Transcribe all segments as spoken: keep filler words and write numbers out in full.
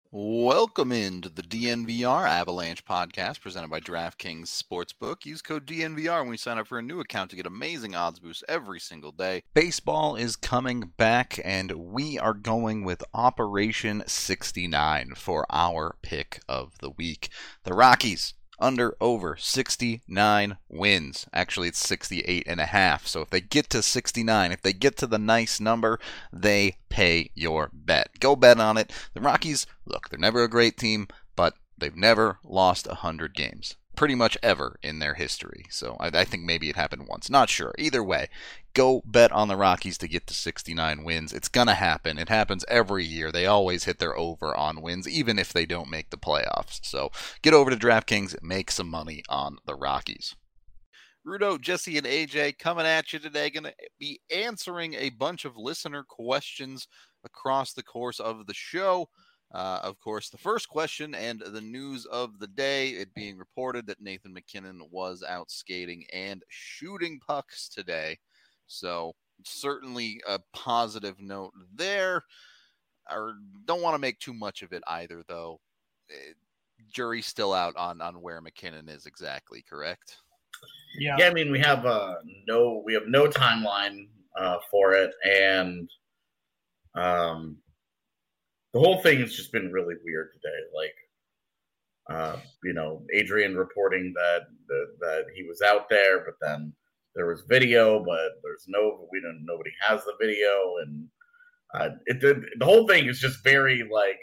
Welcome into the D N V R Avalanche podcast presented by DraftKings Sportsbook. Use code D N V R when you sign up for a new account to get amazing odds boosts every single day. Baseball is coming back, and we are going with Operation sixty-nine for our pick of the week. The Rockies under over sixty-nine wins. Actually, it's sixty-eight and a half. So if they get to sixty-nine, if they get to the nice number, they pay your bet. Go bet on it. The Rockies, look, they're never a great team, but they've never lost one hundred games. Pretty much ever in their history. So I, I think maybe it happened once. Not sure. Either way, go bet on the Rockies to get to sixty-nine wins. It's going to happen. It happens every year. They always hit their over on wins, even if they don't make the playoffs. So get over to DraftKings and make some money on the Rockies. Rudo, Jesse, and A J coming at you today. Going to be answering a bunch of listener questions across the course of the show. Uh, of course, the first question and the news of the day, it being reported that Nathan MacKinnon was out skating and shooting pucks today. So certainly a positive note there. I don't want to make too much of it either, though. It, jury's still out on, on where MacKinnon is exactly, correct? Yeah. yeah, I mean, we have uh, no, we have no timeline uh, for it, and um, the whole thing has just been really weird today. Like, uh, you know, Adrian reporting that, that that he was out there, but then there was video, but there's no, we don't, nobody has the video, and uh, it the, the whole thing is just very like,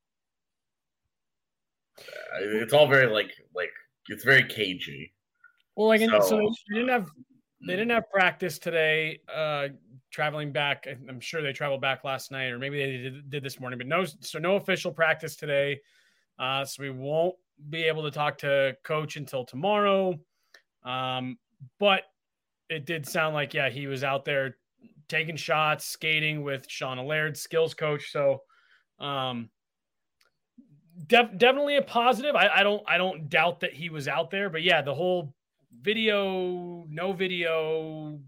uh, it's all very like like it's very cagey. Well, like, so, so they didn't have they didn't have practice today. Uh, traveling back, I'm sure they traveled back last night, or maybe they did, did this morning. But no, so no official practice today. Uh, so we won't be able to talk to Coach until tomorrow. Um, but it did sound like yeah, he was out there taking shots, skating with Sean Allaire, skills coach. So, um, def- definitely a positive. I, I don't I don't doubt that he was out there. But yeah, the whole video, no video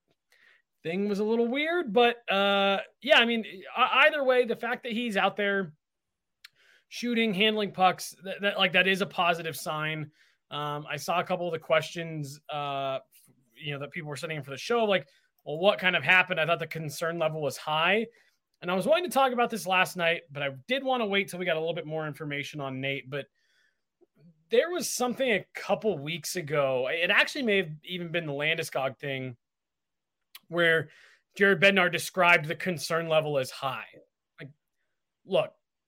thing was a little weird, but uh, yeah, I mean, either way, the fact that he's out there shooting, handling pucks, that, that like that is a positive sign. Um, I saw a couple of the questions, uh, you know, that people were sending in for the show, like, well, what kind of happened? I thought the concern level was high, and I was wanting to talk about this last night, but I did want to wait till we got a little bit more information on Nate, but there was something a couple weeks ago. It actually may have even been the Landeskog thing where Jared Bednar described the concern level as high. Like, look,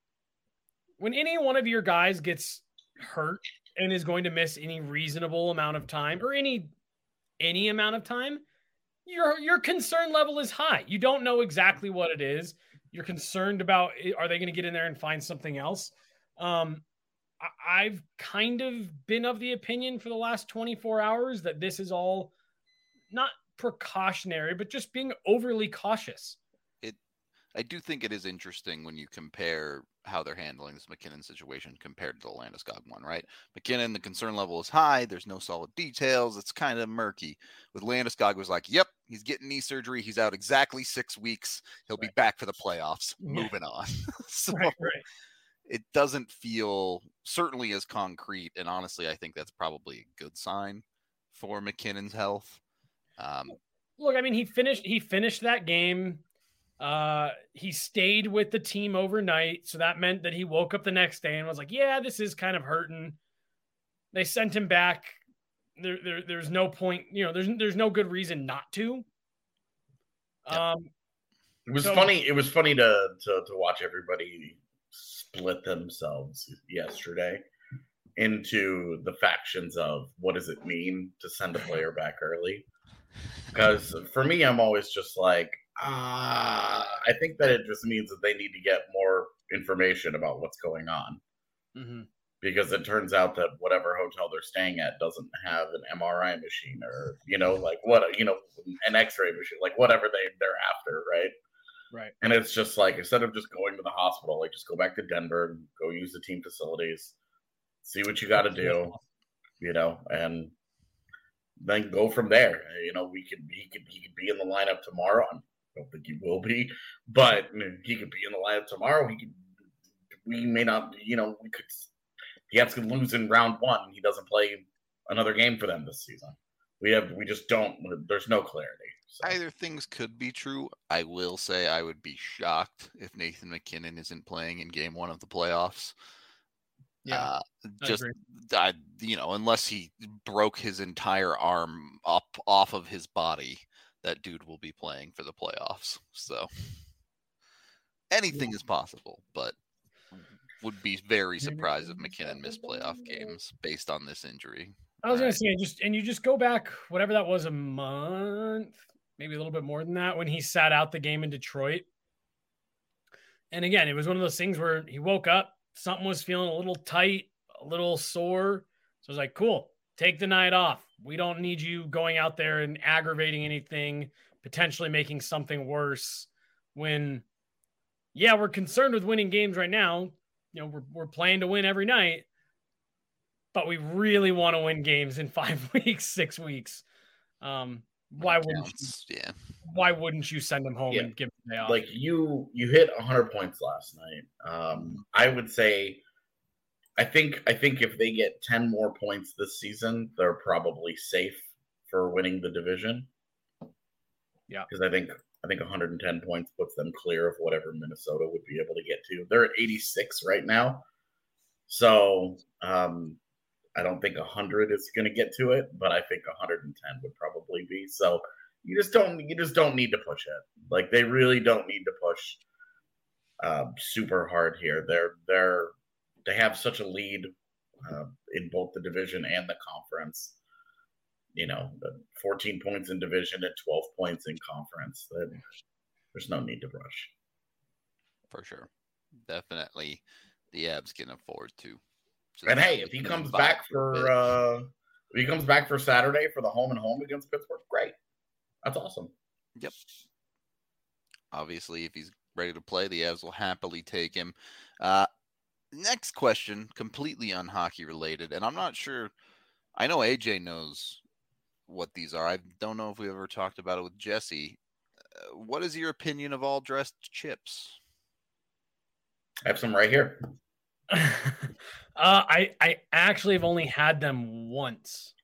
when any one of your guys gets hurt and is going to miss any reasonable amount of time or any any amount of time, your your concern level is high. You don't know exactly what it is. You're concerned about, are they going to get in there and find something else? Um, I've kind of been of the opinion for the last twenty-four hours that this is all not precautionary, but just being overly cautious. It, I do think it is interesting when you compare how they're handling this MacKinnon situation compared to the Landeskog one, right? MacKinnon, the concern level is high. There's no solid details. It's kind of murky. With Landeskog, was like, yep, he's getting knee surgery. He's out exactly six weeks. He'll right. be back for the playoffs. Yeah. Moving on. so, right, right. It doesn't feel certainly as concrete, and honestly, I think that's probably a good sign for MacKinnon's health. Um, Look, I mean, he finished he finished that game. Uh, he stayed with the team overnight, so that meant that he woke up the next day and was like, "Yeah, this is kind of hurting." They sent him back. There, there there's no point, you know. There's there's no good reason not to. Yep. Um, it was so, funny. It was funny to to to watch everybody split themselves yesterday into the factions of what does it mean to send a player back early? Because for me, I'm always just like, ah, I think that it just means that they need to get more information about what's going on. Mm-hmm. Because it turns out that whatever hotel they're staying at doesn't have an M R I machine or, you know, like what, you know, an X-ray machine, like whatever they, they're after, right? Right. And it's just like, instead of just going to the hospital, like just go back to Denver and go use the team facilities, see what you got to do, you know, and then go from there. You know, we could, he could, he could be in the lineup tomorrow. I don't think he will be, but he could be in the lineup tomorrow. He could we may not, you know, we could. The Avs could lose in round one. He doesn't play another game for them this season. We have, we just don't. There's no clarity. So. Either things could be true. I will say I would be shocked if Nathan MacKinnon isn't playing in Game One of the playoffs. Yeah, uh, just I I, you know, unless he broke his entire arm up off of his body, that dude will be playing for the playoffs. So anything yeah. is possible, but would be very surprised if MacKinnon missed playoff games based on this injury. I was going to say, just and you just go back, whatever that was, a month, maybe a little bit more than that, when he sat out the game in Detroit. And again, it was one of those things where he woke up, something was feeling a little tight, a little sore. So I was like, cool, take the night off. We don't need you going out there and aggravating anything, potentially making something worse when, yeah, we're concerned with winning games right now. You know, we're we're playing to win every night, but we really want to win games in five weeks, six weeks. Um, why wouldn't you, yeah. Why wouldn't you send them home yeah. and give them a day off? Like you, you hit one hundred points last night. Um, I would say, I think, I think if they get ten more points this season, they're probably safe for winning the division. Yeah, because I think. I think one hundred ten points puts them clear of whatever Minnesota would be able to get to. They're at eighty-six right now. So um, I don't think one hundred is going to get to it, but I think one hundred ten would probably be. So you just don't you just don't need to push it. Like they really don't need to push uh, super hard here. They're they're they have such a lead uh, in both the division and the conference. You know, fourteen points in division and twelve points in conference. There's no need to rush. For sure. Definitely the Avs can afford to. So and hey, if he comes back for uh, if he comes back for Saturday for the home and home against Pittsburgh, great. That's awesome. Yep. Obviously, if he's ready to play, the Avs will happily take him. Uh, next question, completely unhockey related, and I'm not sure. I know A J knows what these are. I don't know if we ever talked about it with Jesse. Uh, what is your opinion of all dressed chips? I have some right here. uh, I I actually have only had them once.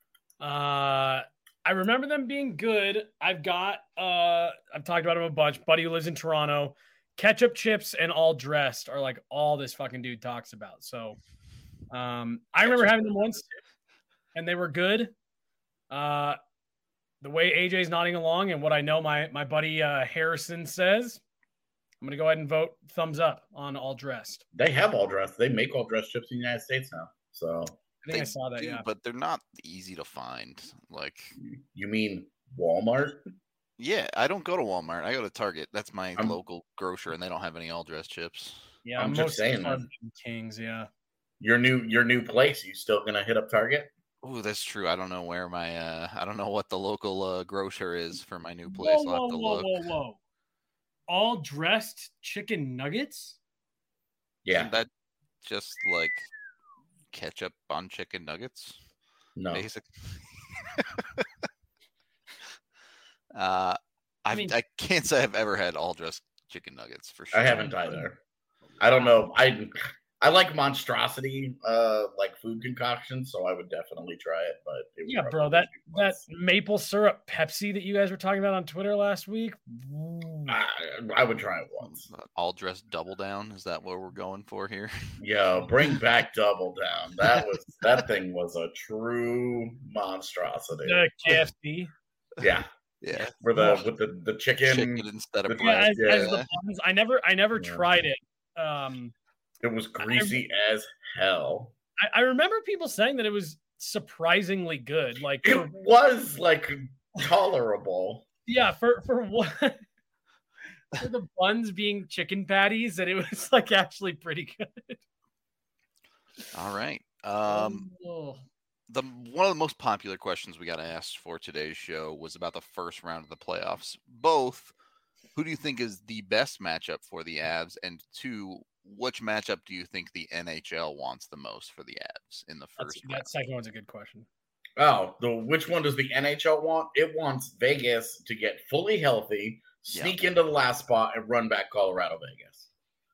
Uh, I remember them being good. I've got uh, I've talked about them a bunch. Buddy who lives in Toronto. Ketchup chips and all dressed are like all this fucking dude talks about. So um, I remember having them once, and they were good. Uh, the way A J's nodding along and what I know my my buddy uh, Harrison says, I'm gonna go ahead and vote thumbs up on all dressed. They have all dressed. They make all dressed chips in the United States now. So I think they I saw that. do, yeah, but they're not easy to find. Like, you mean Walmart? Yeah, I don't go to Walmart. I go to Target. That's my I'm, local grocer, and they don't have any all dressed chips. Yeah, I'm just saying that. Kings. Yeah, your new your new place. You still gonna hit up Target? Oh, that's true. I don't know where my uh, I don't know what the local uh, grocer is for my new place. Whoa, I'll have to whoa, look. whoa, whoa, whoa! All dressed chicken nuggets? Yeah, Isn't that just like ketchup on chicken nuggets? No, basic. uh, I mean, I can't say I've ever had all dressed chicken nuggets for sure. I haven't either. I don't know. I I like monstrosity, uh, like food concoctions, so I would definitely try it. But it yeah, bro, that that maple syrup Pepsi that you guys were talking about on Twitter last week, I, I would try it once. All dressed double down, is that what we're going for here? Yeah, bring back double down. That was that thing was a true monstrosity. The K F C. Yeah. Yeah, for the with the, the chicken, chicken instead of yeah, as, yeah. as the buns. I never I never yeah. tried it. Um, it was greasy I, as hell. I, I remember people saying that it was surprisingly good. Like it for, was like tolerable. Yeah, for for what for the buns being chicken patties, that it was like actually pretty good. All right. Um. Oh. The one of the most popular questions we got asked for today's show was about the first round of the playoffs. Both, who do you think is the best matchup for the Avs? And two, which matchup do you think the N H L wants the most for the Avs in the first That's, round? That second one's a good question. Oh, the which one does the N H L want? It wants Vegas to get fully healthy, sneak yeah. into the last spot, and run back Colorado Vegas.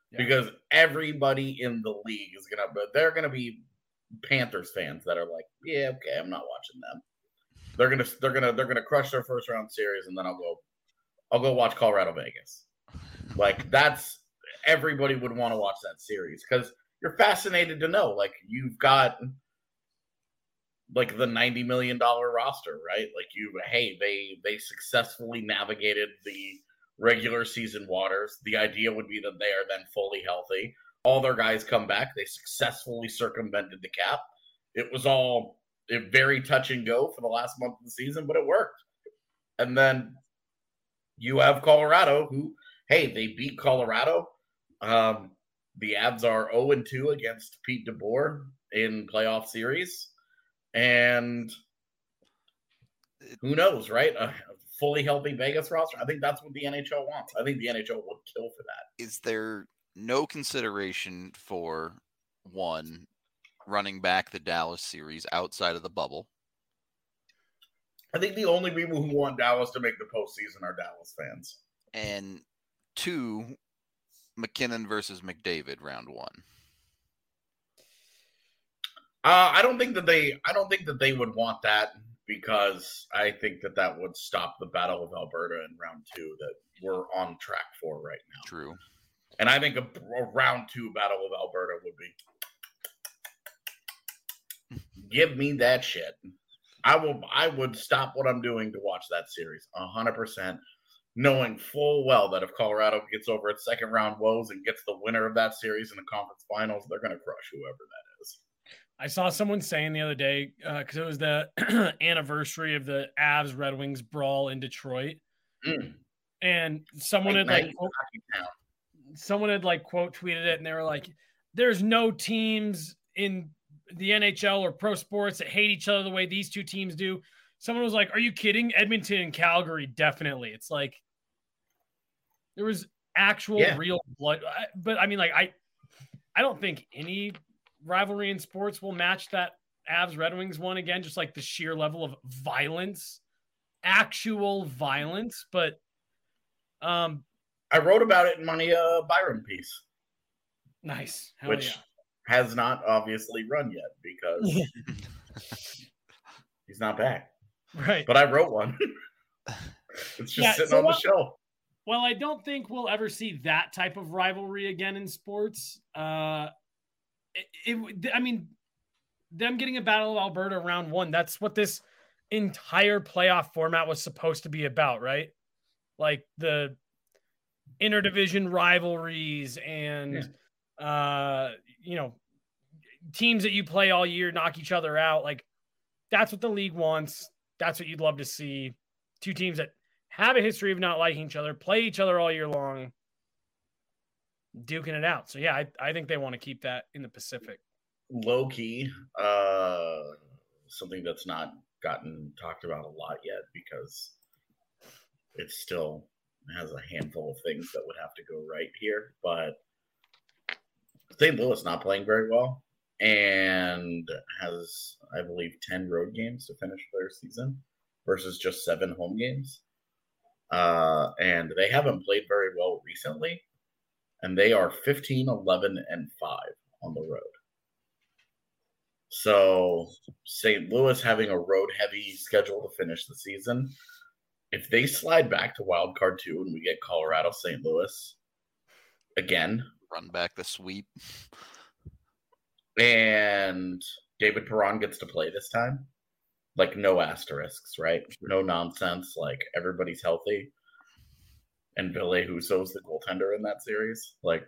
yeah. because everybody in the league is gonna. But they're gonna be Panthers fans that are like, yeah, okay, I'm not watching them. They're gonna, they're gonna, they're gonna crush their first round series, and then I'll go, I'll go watch Colorado Vegas. Like that's everybody would want to watch that series because you're fascinated to know. Like you've got like the ninety million dollar roster, right? Like you, hey, they they successfully navigated the regular season waters. The idea would be that they are then fully healthy. All their guys come back. They successfully circumvented the cap. It was all very touch and go for the last month of the season, but it worked. And then you have Colorado who, hey, they beat Colorado. Um, the Avs are oh and two against Pete DeBoer in playoff series. And who knows, right? A fully healthy Vegas roster. I think that's what the N H L wants. I think the N H L would kill for that. Is there no consideration for, one, running back the Dallas series outside of the bubble? I think the only people who want Dallas to make the postseason are Dallas fans. And two, McKinnon versus McDavid round one. Uh, I don't think that they. I don't think that they would want that because I think that that would stop the Battle of Alberta in round two that we're on track for right now. True. And I think a, a round two Battle of Alberta would be. Give me that shit. I will. I would stop what I'm doing to watch that series a hundred percent, knowing full well that if Colorado gets over its second round woes and gets the winner of that series in the conference finals, they're going to crush whoever that is. I saw someone saying the other day, because uh, it was the anniversary of the Avs Red Wings brawl in Detroit. Mm. And someone had like, quote, someone had like quote tweeted it and they were like, there's no teams in the N H L or pro sports that hate each other the way these two teams do. Someone was like, are you kidding? Edmonton and Calgary, definitely. It's like, there was actual yeah. real blood. But I mean, like, I, I don't think any rivalry in sports will match that Avs Red Wings one again, just like the sheer level of violence, actual violence. But um, I wrote about it in my uh, Byron piece. Nice. Hell which yeah. has not obviously run yet because he's not back. Right. But I wrote one. It's just yeah, sitting so on the what, shelf. Well, I don't think we'll ever see that type of rivalry again in sports. Uh, It, it, I mean, them getting a Battle of Alberta round one, that's what this entire playoff format was supposed to be about, right? Like the interdivision rivalries and, yeah. uh, you know, teams that you play all year knock each other out. Like, that's what the league wants. That's what you'd love to see. Two teams that have a history of not liking each other, play each other all year long, duking it out. So yeah, I, I think they want to keep that in the Pacific. Low key, uh, something that's not gotten talked about a lot yet because it still has a handful of things that would have to go right here. But Saint Louis not playing very well and has, I believe, ten road games to finish their season versus just seven home games. Uh, and they haven't played very well recently. And they are fifteen, eleven, and five on the road. So Saint Louis having a road-heavy schedule to finish the season. If they slide back to wild card two and we get Colorado, Saint Louis again. Run back the sweep. And David Perron gets to play this time. Like no asterisks, right? No nonsense. Like everybody's healthy. And Ville Husso's the goaltender in that series. Like,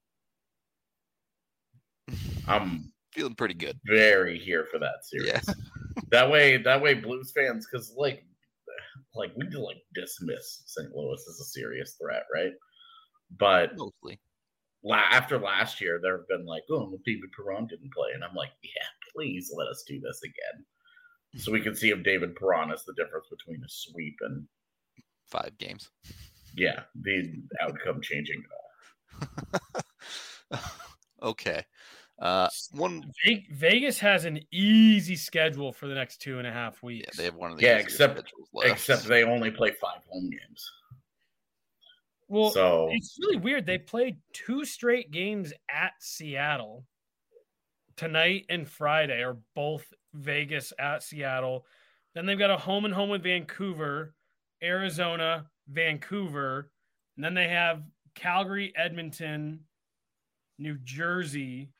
I'm feeling pretty good. Very here for that series. Yeah. that way, that way, Blues fans, because like, like we do like dismiss Saint Louis as a serious threat, right? But mostly la- after last year, there have been like, oh, David Perron didn't play, and I'm like, yeah, please let us do this again, so we can see if David Perron is the difference between a sweep and five games. Yeah, the outcome changing at all. Okay. Uh, one Vegas has an easy schedule for the next two and a half weeks. Yeah, they have one of the yeah, except except they only play five home games. Well, so it's really weird. They played two straight games at Seattle. Tonight and Friday are both Vegas at Seattle. Then they've got a home and home with Vancouver, Arizona, Vancouver. And then they have Calgary, Edmonton, New Jersey.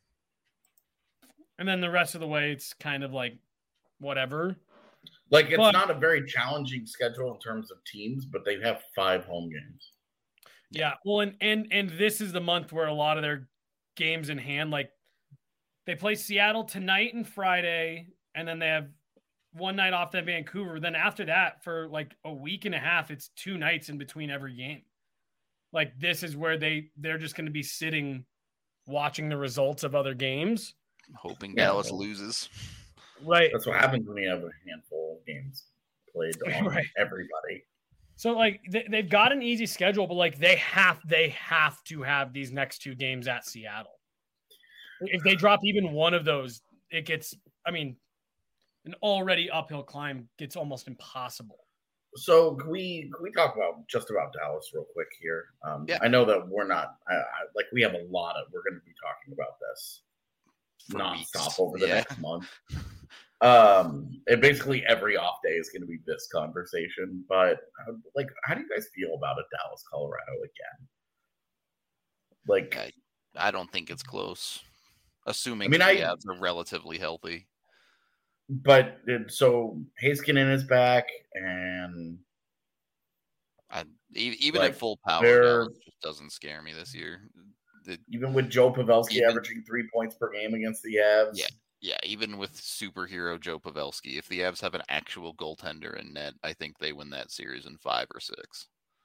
And then the rest of the way, it's kind of like whatever. Like, it's but, not a very challenging schedule in terms of teams, but they have five home games. Yeah. Well, and, and, and this is the month where a lot of their games in hand, like they play Seattle tonight and Friday, and then they have one night off at Vancouver. Then after that, for like a week and a half, it's two nights in between every game. Like, this is where they, they're just going to be sitting, watching the results of other games. Hoping yeah, Dallas well, loses. Right. That's what happens when you have a handful of games played on right. everybody. So, like, they, they've got an easy schedule, but, like, they have they have to have these next two games at Seattle. If they drop even one of those, it gets, I mean, an already uphill climb gets almost impossible. So can we can we talk about just about Dallas real quick here? Um, yeah. I know that we're not I, I, like we have a lot of we're going to be talking about this For nonstop weeks. over the yeah. next month. Um, and basically every off day is going to be this conversation. But like, how do you guys feel about a Dallas, Colorado again? Like, I, I don't think it's close. Assuming I mean, the I, Avs are relatively healthy. But so Heiskanen is back, and I, even like, at full power, Dallas just doesn't scare me this year. The, even with Joe Pavelski even, averaging three points per game against the Avs. Yeah, yeah. Even with superhero Joe Pavelski, if the Avs have an actual goaltender in net, I think they win that series in five or six.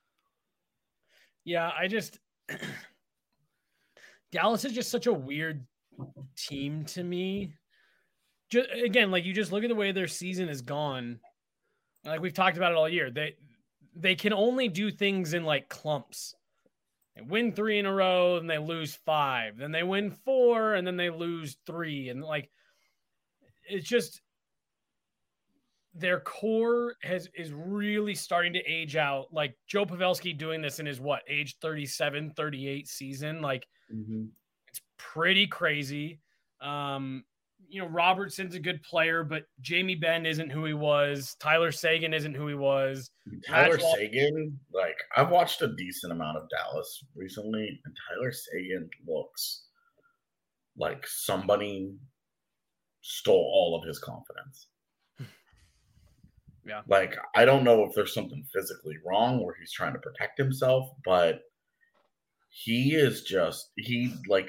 Yeah, I just Dallas is just such a weird team to me. Just, again, like you just look at the way their season is gone. Like we've talked about it all year. They they can only do things in like clumps. They win three in a row and they lose five. Then they win four and then they lose three. And like it's just their core has is really starting to age out. Like Joe Pavelski doing this in his what, age thirty-seven, thirty-eight season. Like mm-hmm. It's pretty crazy. Um, you know, Robertson's a good player, but Jamie Benn isn't who he was. Tyler Seguin isn't who he was. Tyler Match Seguin, like I've watched a decent amount of Dallas recently, and Tyler Seguin looks like somebody stole all of his confidence. Yeah. Like, I don't know if there's something physically wrong where he's trying to protect himself, but he is just, he like,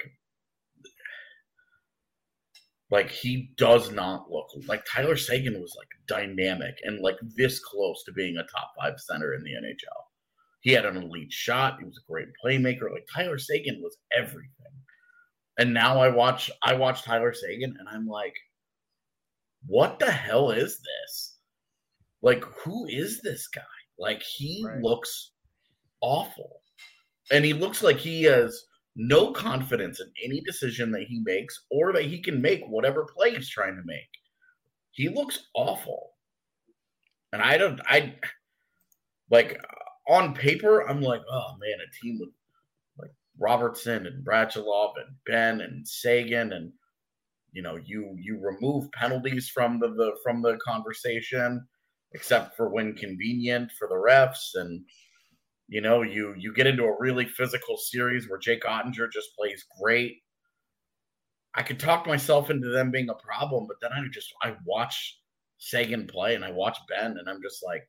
like he does not look like Tyler Seguin was like dynamic and like this close to being a top five center in the N H L. He had an elite shot. He was a great playmaker. Like Tyler Seguin was everything. And now I watch, I watch Tyler Seguin and I'm like, what the hell is this? Like, who is this guy? Like, he right. looks awful. And he looks like he has no confidence in any decision that he makes or that he can make whatever play he's trying to make. He looks awful. And I don't, I, like, on paper, I'm like, oh, man, a team with, like, Robertson and Bradulov and Ben and Seguin and, you know, you you remove penalties from the, the from the conversation, except for when convenient for the refs. And, you know, you you get into a really physical series where Jake Ottinger just plays great. I could talk myself into them being a problem, but then I just, I watch Seguin play and I watch Ben and I'm just like,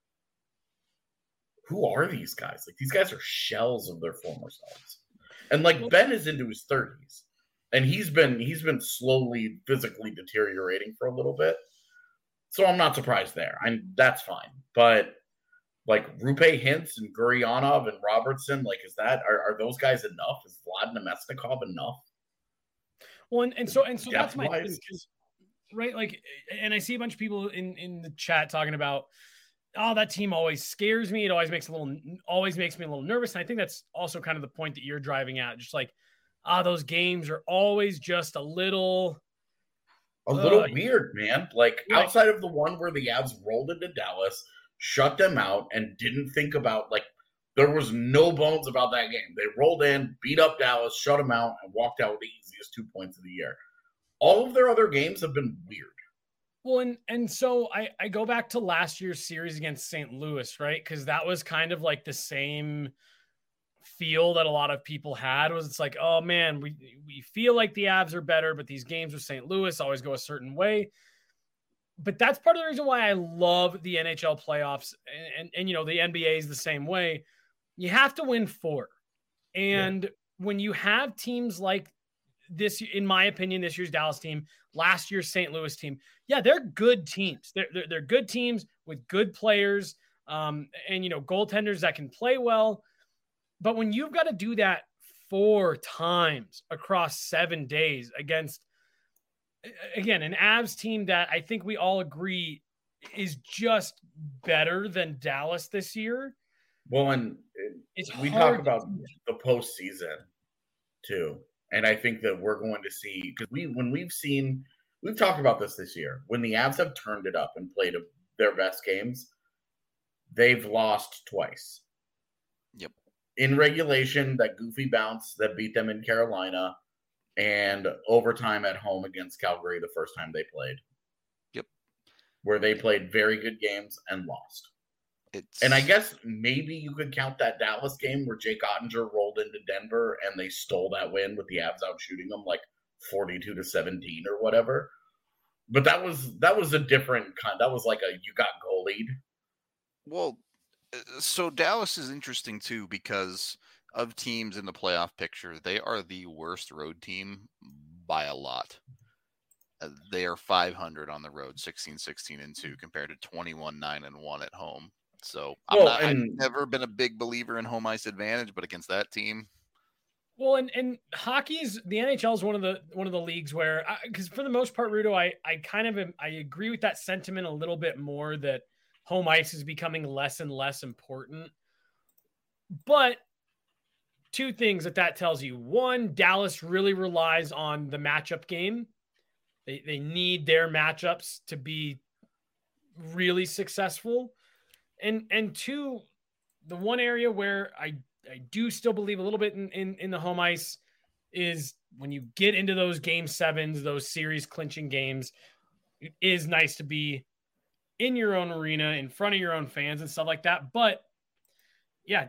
who are these guys? Like, these guys are shells of their former selves. And, like, Ben is into his thirties. And he's been he's been slowly physically deteriorating for a little bit. So I'm not surprised there. I'm that's fine. But like Rupe Hintz and Gurionov and Robertson, like is that are, are those guys enough? Is Vlad Namestnikov enough? Well, and, and so and so that's my thing, right? Like, and I see a bunch of people in, in the chat talking about, oh, that team always scares me. It always makes a little always makes me a little nervous. And I think that's also kind of the point that you're driving at. Just like, ah, those games are always just a little A little uh, weird, man. Like, right. Outside of the one where the Avs rolled into Dallas, shut them out, and didn't think about, like, There was no bones about that game. They rolled in, beat up Dallas, shut them out, and walked out with the easiest two points of the year. All of their other games have been weird. Well, and and so I, I go back to last year's series against Saint Louis, right? Because that was kind of like the same feel that a lot of people had. Was it's like, oh man, we we feel like the Avs are better, but these games with Saint Louis always go a certain way. But that's part of the reason why I love the N H L playoffs, and and, and you know the N B A is the same way. You have to win four, and yeah. when you have teams like this, in my opinion, this year's Dallas team, last year's Saint Louis team, yeah, they're good teams. They're they're, they're good teams with good players, um, and you know goaltenders that can play well. But when you've got to do that four times across seven days against, again, an Avs team that I think we all agree is just better than Dallas this year. Well, and it's we talk about the postseason too, and I think that we're going to see, because we when we've seen we've talked about this this year, when the Avs have turned it up and played their best games, they've lost twice. Yep. In regulation, that goofy bounce that beat them in Carolina, and overtime at home against Calgary the first time they played. Yep. Where they played very good games and lost. It's... And I guess maybe you could count that Dallas game where Jake Ottinger rolled into Denver and they stole that win with the Avs out shooting them like forty-two to seventeen or whatever. But that was that was a different kind. That was like a you got goalied. Well, so Dallas is interesting too because of teams in the playoff picture. They are the worst road team by a lot. Uh, they are five hundred on the road, sixteen, sixteen, and two, compared to twenty-one, nine, and one at home. So I'm well, not, and, I've never been a big believer in home ice advantage, but against that team. Well, and, and hockey's the N H L is one of the one of the leagues where, because for the most part, Rudo, I I kind of am, I agree with that sentiment a little bit more that home ice is becoming less and less important. But two things that that tells you: one, Dallas really relies on the matchup game. They they need their matchups to be really successful. And and two, the one area where I, I do still believe a little bit in, in, in the home ice is when you get into those game sevens, those series clinching games, it is nice to be in your own arena, in front of your own fans and stuff like that. But yeah,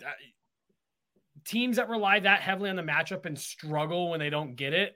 teams that rely that heavily on the matchup and struggle when they don't get it,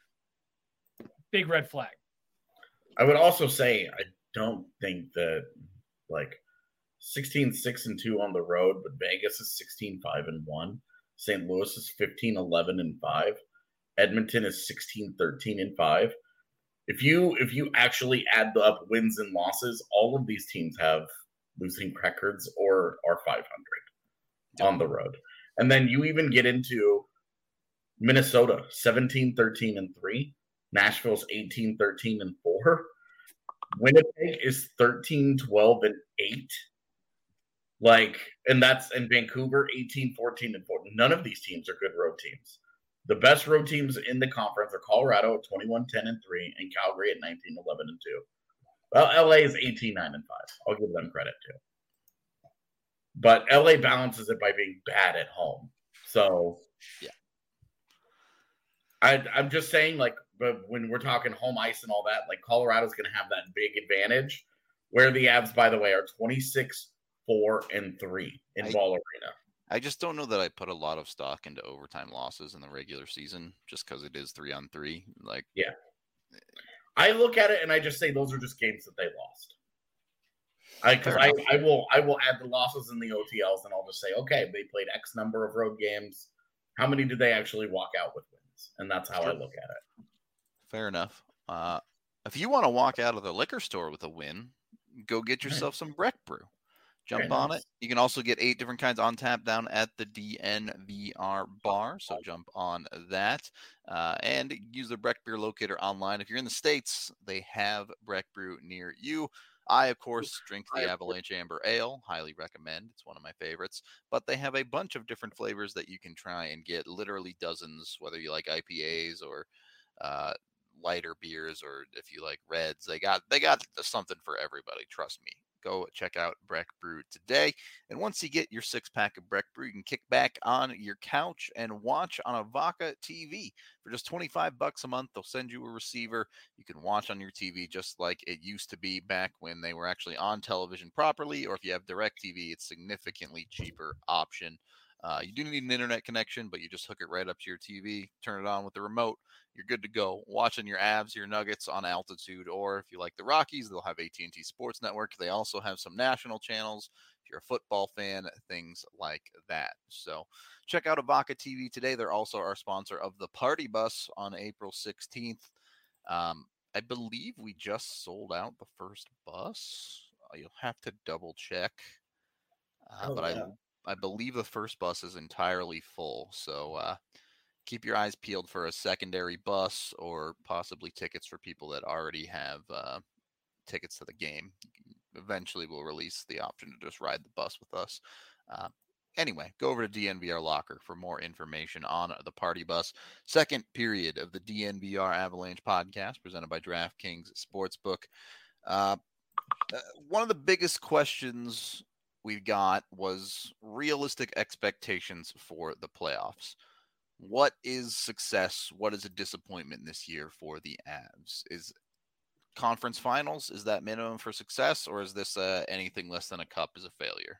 big red flag. I would also say I don't think that like sixteen, six, and two on the road, but Vegas is sixteen, five, and one. Saint Louis is fifteen, eleven, and five. Edmonton is sixteen, thirteen, and five. If you if you actually add up wins and losses, all of these teams have losing records or are five hundred on the road. And then you even get into Minnesota, seventeen, thirteen, and three. Nashville's eighteen, thirteen, and four. Winnipeg is thirteen, twelve, and eight. Like, and that's in Vancouver, eighteen, fourteen, and four. None of these teams are good road teams. The best road teams in the conference are Colorado at twenty-one, ten, and three, and Calgary at nineteen, eleven, and two. Well, L A is eighteen, nine, and five. I'll give them credit too. But L A balances it by being bad at home. So, yeah. I, I'm just saying, like, but when we're talking home ice and all that, like, Colorado's going to have that big advantage, where the Avs, by the way, are twenty-six, four, and three in I, Ball Arena. I just don't know that I put a lot of stock into overtime losses in the regular season, just because it is three on three. Like, yeah, I look at it and I just say those are just games that they lost. I because I, I will I will add the losses in the O T Ls and I'll just say, okay, they played X number of road games. How many did they actually walk out with wins? And that's how I look at it. Fair enough. Uh, if you want to walk out of the liquor store with a win, go get yourself some Breck Brew. Jump Very on nice. it. You can also get eight different kinds on tap down at the D N V R bar. So jump on that uh, and use the Breck Beer Locator online. If you're in the States, they have Breck Brew near you. I, of course, drink the Avalanche Amber Ale. Highly recommend. It's one of my favorites. But they have a bunch of different flavors that you can try and get, literally dozens, whether you like I P As or uh, lighter beers or if you like reds. They got they got something for everybody. Trust me. go check out Breck Brew today. And once you get your six-pack of Breck Brew, you can kick back on your couch and watch on Avaca T V. For just twenty-five bucks a month, they'll send you a receiver. You can watch on your T V just like it used to be back when they were actually on television properly, or if you have DirecTV, it's a significantly cheaper option. Uh, you do need an internet connection, but you just hook it right up to your T V, turn it on with the remote. You're good to go. Watching your Avs, your Nuggets on altitude, or if you like the Rockies, they'll have A T and T Sports Network. They also have some national channels. If you're a football fan, things like that. So check out Avaca T V today. They're also our sponsor of the Party Bus on April sixteenth. Um, I believe we just sold out the first bus. You'll have to double check. Uh, oh, but yeah. I I believe the first bus is entirely full, so uh, keep your eyes peeled for a secondary bus or possibly tickets for people that already have uh, tickets to the game. Eventually, we'll release the option to just ride the bus with us. Uh, anyway, go over to D N V R Locker for more information on the Party Bus. Second period of the D N V R Avalanche podcast presented by DraftKings Sportsbook. Uh, one of the biggest questions we got was realistic expectations for the playoffs. What is success? What is a disappointment this year for the Avs? Is conference finals, is that minimum for success, or is this uh, anything less than a cup is a failure?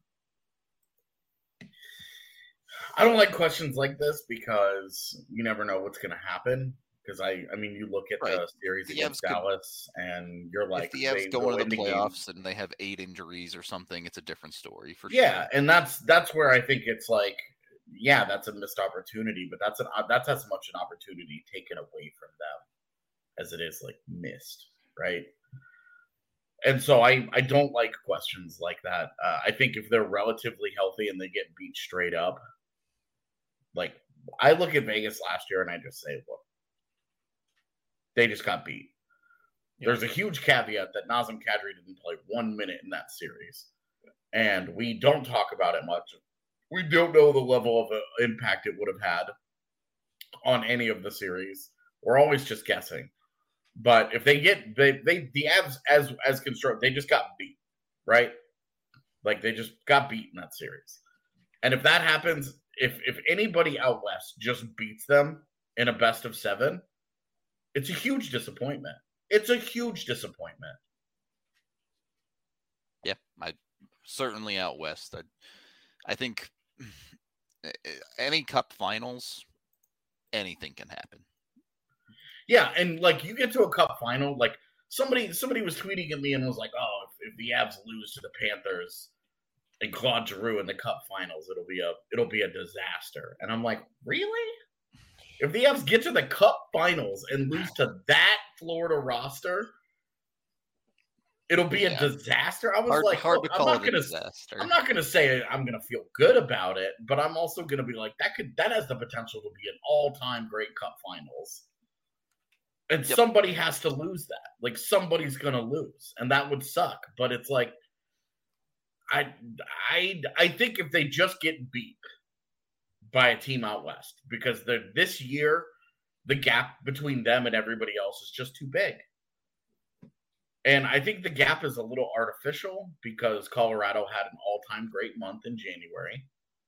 I don't like questions like this because you never know what's going to happen. Because I, I mean, you look at right. the series the against Avs Dallas, could, and you're like, if the Avs go into the playoffs game, and they have eight injuries or something, it's a different story for yeah, sure. Yeah, and that's that's where I think it's like, yeah, that's a missed opportunity, but that's an that's as much an opportunity taken away from them as it is like missed, right? And so I, I don't like questions like that. Uh, I think if they're relatively healthy and they get beat straight up, like I look at Vegas last year and I just say, look. They just got beat. Yeah. There's a huge caveat that Nazem Kadri didn't play one minute in that series. And we don't talk about it much. We don't know the level of uh, impact it would have had on any of the series. We're always just guessing. But if they get they they the Avs as as constructed, they just got beat, right? Like they just got beat in that series. And if that happens, if if anybody out west just beats them in a best of seven, it's a huge disappointment. It's a huge disappointment. Yeah, I certainly out west. I, I think any cup finals, anything can happen. Yeah, and like you get to a cup final, like somebody somebody was tweeting at me and was like, "Oh, if, if the Avs lose to the Panthers and Claude Giroux in the cup finals, it'll be a it'll be a disaster." And I'm like, "Really? If the Avs get to the cup finals and lose to that Florida roster, it'll be a yeah. disaster." I was hard, like, hard to I'm call not it gonna, a disaster. I'm not gonna say I'm gonna feel good about it, but I'm also gonna be like, that could that has the potential to be an all-time great cup finals. And yep. somebody has to lose that. Like somebody's gonna lose, and that would suck. But it's like, I, I, I think if they just get beat by a team out west, because they're this year, the gap between them and everybody else is just too big. And I think the gap is a little artificial because Colorado had an all-time great month in January.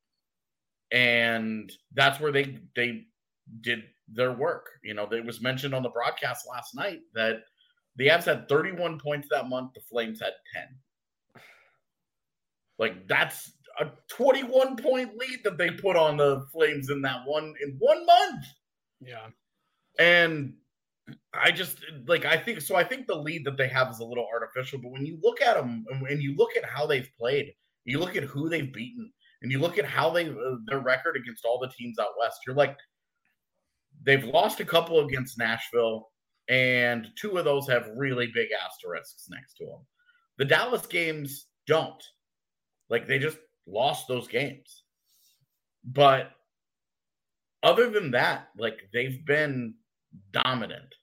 And that's where they they did their work. You know, it was mentioned on the broadcast last night that the Avs had thirty-one points that month. The Flames had ten. Like, that's a twenty-one point lead that they put on the Flames in that one in one month. Yeah. And I just like I think so I think the lead that they have is a little artificial, but when you look at them and you look at how they've played, you look at who they've beaten, and you look at how they uh, their record against all the teams out west, you're like, they've lost a couple against Nashville, and two of those have really big asterisks next to them. The Dallas games don't. Like, they just lost those games. But other than that, like, they've been dominant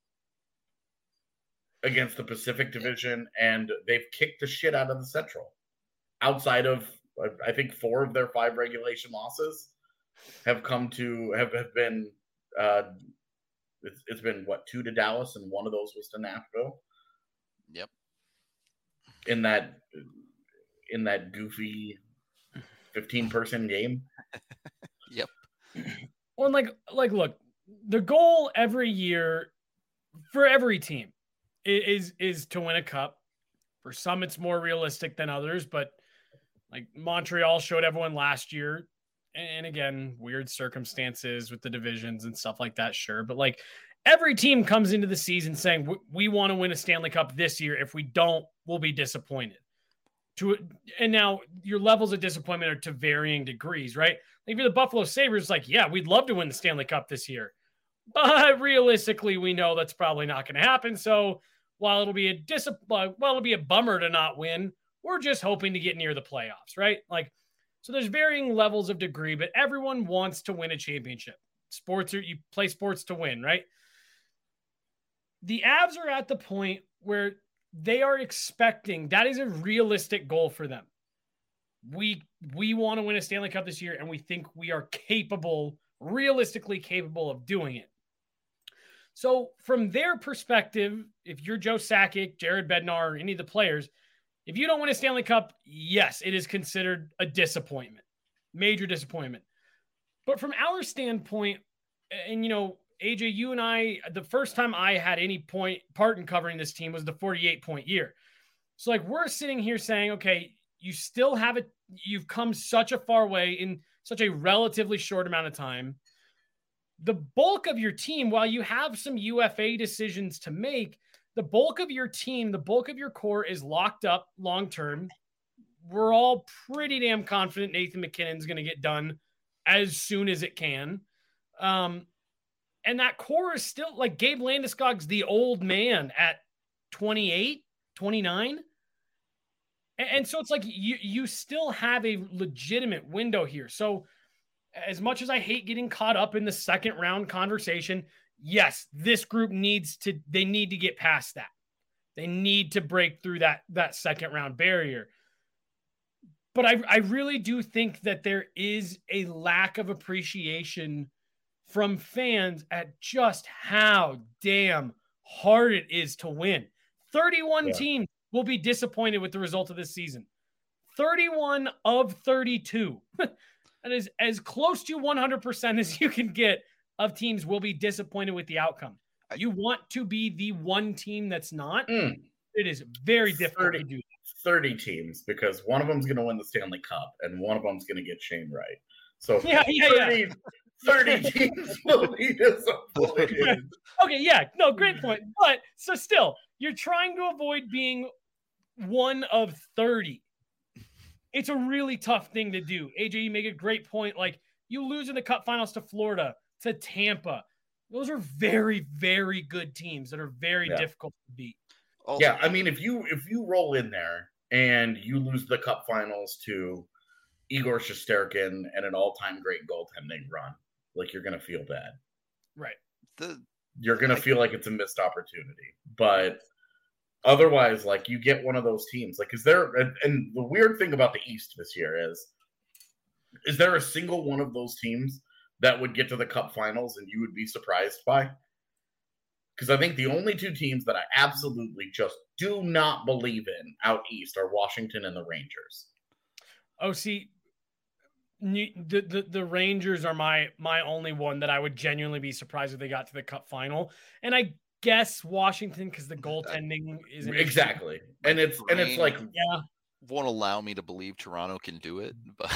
against the Pacific Division, and they've kicked the shit out of the Central. Outside of, I think, four of their five regulation losses have come to, have, have been, uh, it's, it's been, what, two to Dallas, and one of those was to Nashville? Yep. in that in that goofy fifteen person game. Yep. Well, like like look, the goal every year for every team is is to win a cup. For some, it's more realistic than others, but like Montreal showed everyone last year. And again, weird circumstances with the divisions and stuff like that, sure. But like every team comes into the season saying, we, we want to win a Stanley Cup this year. If we don't, we'll be disappointed. To And now your levels of disappointment are to varying degrees, right? Like if you're the Buffalo Sabres, like, yeah, we'd love to win the Stanley Cup this year. But realistically, we know that's probably not going to happen. So while it'll be a dis- well, it'll be a bummer to not win, we're just hoping to get near the playoffs, right? Like, so there's varying levels of degree, but everyone wants to win a championship. Sports are, you play sports to win, right? The Avs are at the point where they are expecting, that is a realistic goal for them. We, we want to win a Stanley Cup this year, and we think we are capable, realistically capable of doing it. So from their perspective, if you're Joe Sakic, Jared Bednar, or any of the players, if you don't win a Stanley Cup, yes, it is considered a disappointment, major disappointment. But from our standpoint, and you know, A J, you and I, the first time I had any point part in covering this team was the forty-eight point year. So like we're sitting here saying, okay, you still have it. You've come such a far way in such a relatively short amount of time. The bulk of your team, while you have some U F A decisions to make, the bulk of your team, the bulk of your core is locked up long-term. We're all pretty damn confident Nathan MacKinnon's going to get done as soon as it can. Um, and that core is still like Gabe Landeskog's the old man at twenty-eight, twenty-nine. And, and so it's like you, you still have a legitimate window here. So as much as I hate getting caught up in the second round conversation, yes, this group needs to, they need to get past that. They need to break through that, that second round barrier. But I, I really do think that there is a lack of appreciation from fans at just how damn hard it is to win. thirty-one yeah. teams will be disappointed with the result of this season. thirty-one of thirty-two. That is as close to one hundred percent as you can get of teams will be disappointed with the outcome. You want to be the one team that's not. Mm. It is very difficult thirty, to do that. thirty teams, because one of them's going to win the Stanley Cup and one of them's going to get Shane Wright. So yeah, yeah, thirty, yeah. thirty teams will be disappointed. Okay, yeah, no, great point. But so still, you're trying to avoid being one of thirty. It's a really tough thing to do. A J, you make a great point. Like, you lose in the Cup Finals to Florida, to Tampa. Those are very, very good teams that are very yeah. difficult to beat. Also, yeah, I mean, if you if you roll in there and you lose the Cup Finals to Igor Shesterkin and an all-time great goaltending run, like, you're going to feel bad. Right. The, you're going to feel like it's a missed opportunity. But otherwise, like, you get one of those teams. Like, is there and, and the weird thing about the East this year is, is there a single one of those teams that would get to the Cup Finals and you would be surprised by? Because I think the only two teams that I absolutely just do not believe in out East are Washington and the Rangers. Oh, see, the, the, the Rangers are my my only one that I would genuinely be surprised if they got to the Cup Final. And I guess Washington, because the goaltending is an exactly, issue. and it's and it's like yeah, won't allow me to believe Toronto can do it, but.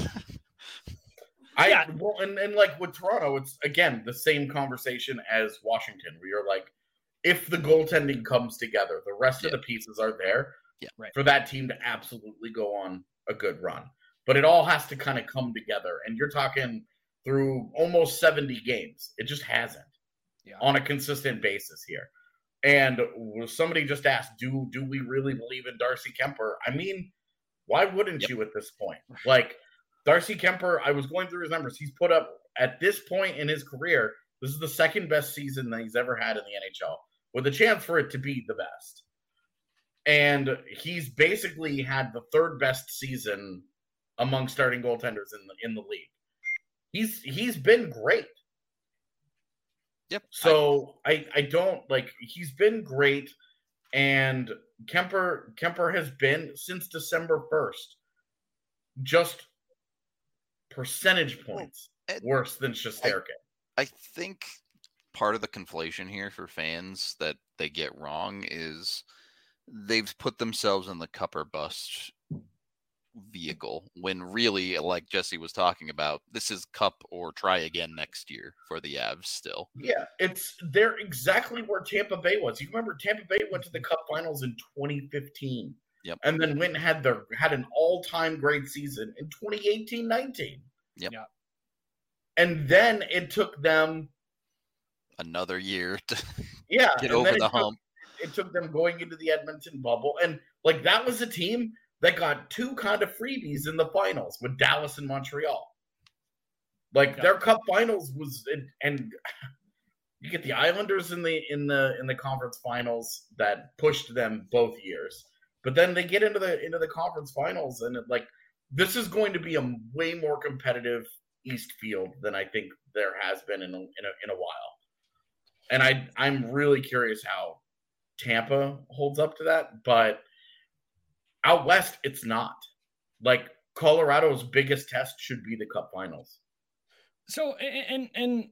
I yeah. well, and, and like with Toronto, it's again the same conversation as Washington, where you're like, if the goaltending comes together, the rest yeah. of the pieces are there yeah, right. for that team to absolutely go on a good run. But it all has to kind of come together, and you're talking through almost seventy games. It just hasn't yeah. on a consistent basis here. And somebody just asked, do do we really believe in Darcy Kemper? I mean, why wouldn't yep. you at this point? Like. Darcy Kemper, I was going through his numbers. He's put up, at this point in his career, this is the second best season that he's ever had in the N H L, with a chance for it to be the best. And he's basically had the third best season among starting goaltenders in the in the league. He's he's been great. Yep. So I, I don't like he's been great, And Kemper Kemper has been since December first just percentage points well, worse than Shesterkin. I, I think part of the conflation here for fans that they get wrong is they've put themselves in the cup or bust vehicle when really, like Jesse was talking about, this is cup or try again next year for the Avs still. Yeah, it's they're exactly where Tampa Bay was. You remember Tampa Bay went to the Cup Finals in twenty fifteen. Yep. And then went and had their had an all-time great season in twenty eighteen nineteen. Yep. Yeah. And then it took them another year to yeah, get over the it hump. Took, it took them going into the Edmonton bubble. And like that was a team that got two kind of freebies in the finals with Dallas and Montreal. Like yeah. their Cup Finals was, and you get the Islanders in the in the in the conference finals that pushed them both years. But then they get into the into the conference finals, and it, like this is going to be a way more competitive East field than I think there has been in a, in a, in a while. And I I'm really curious how Tampa holds up to that, but out west, it's not. Like Colorado's biggest test should be the Cup Finals. So and and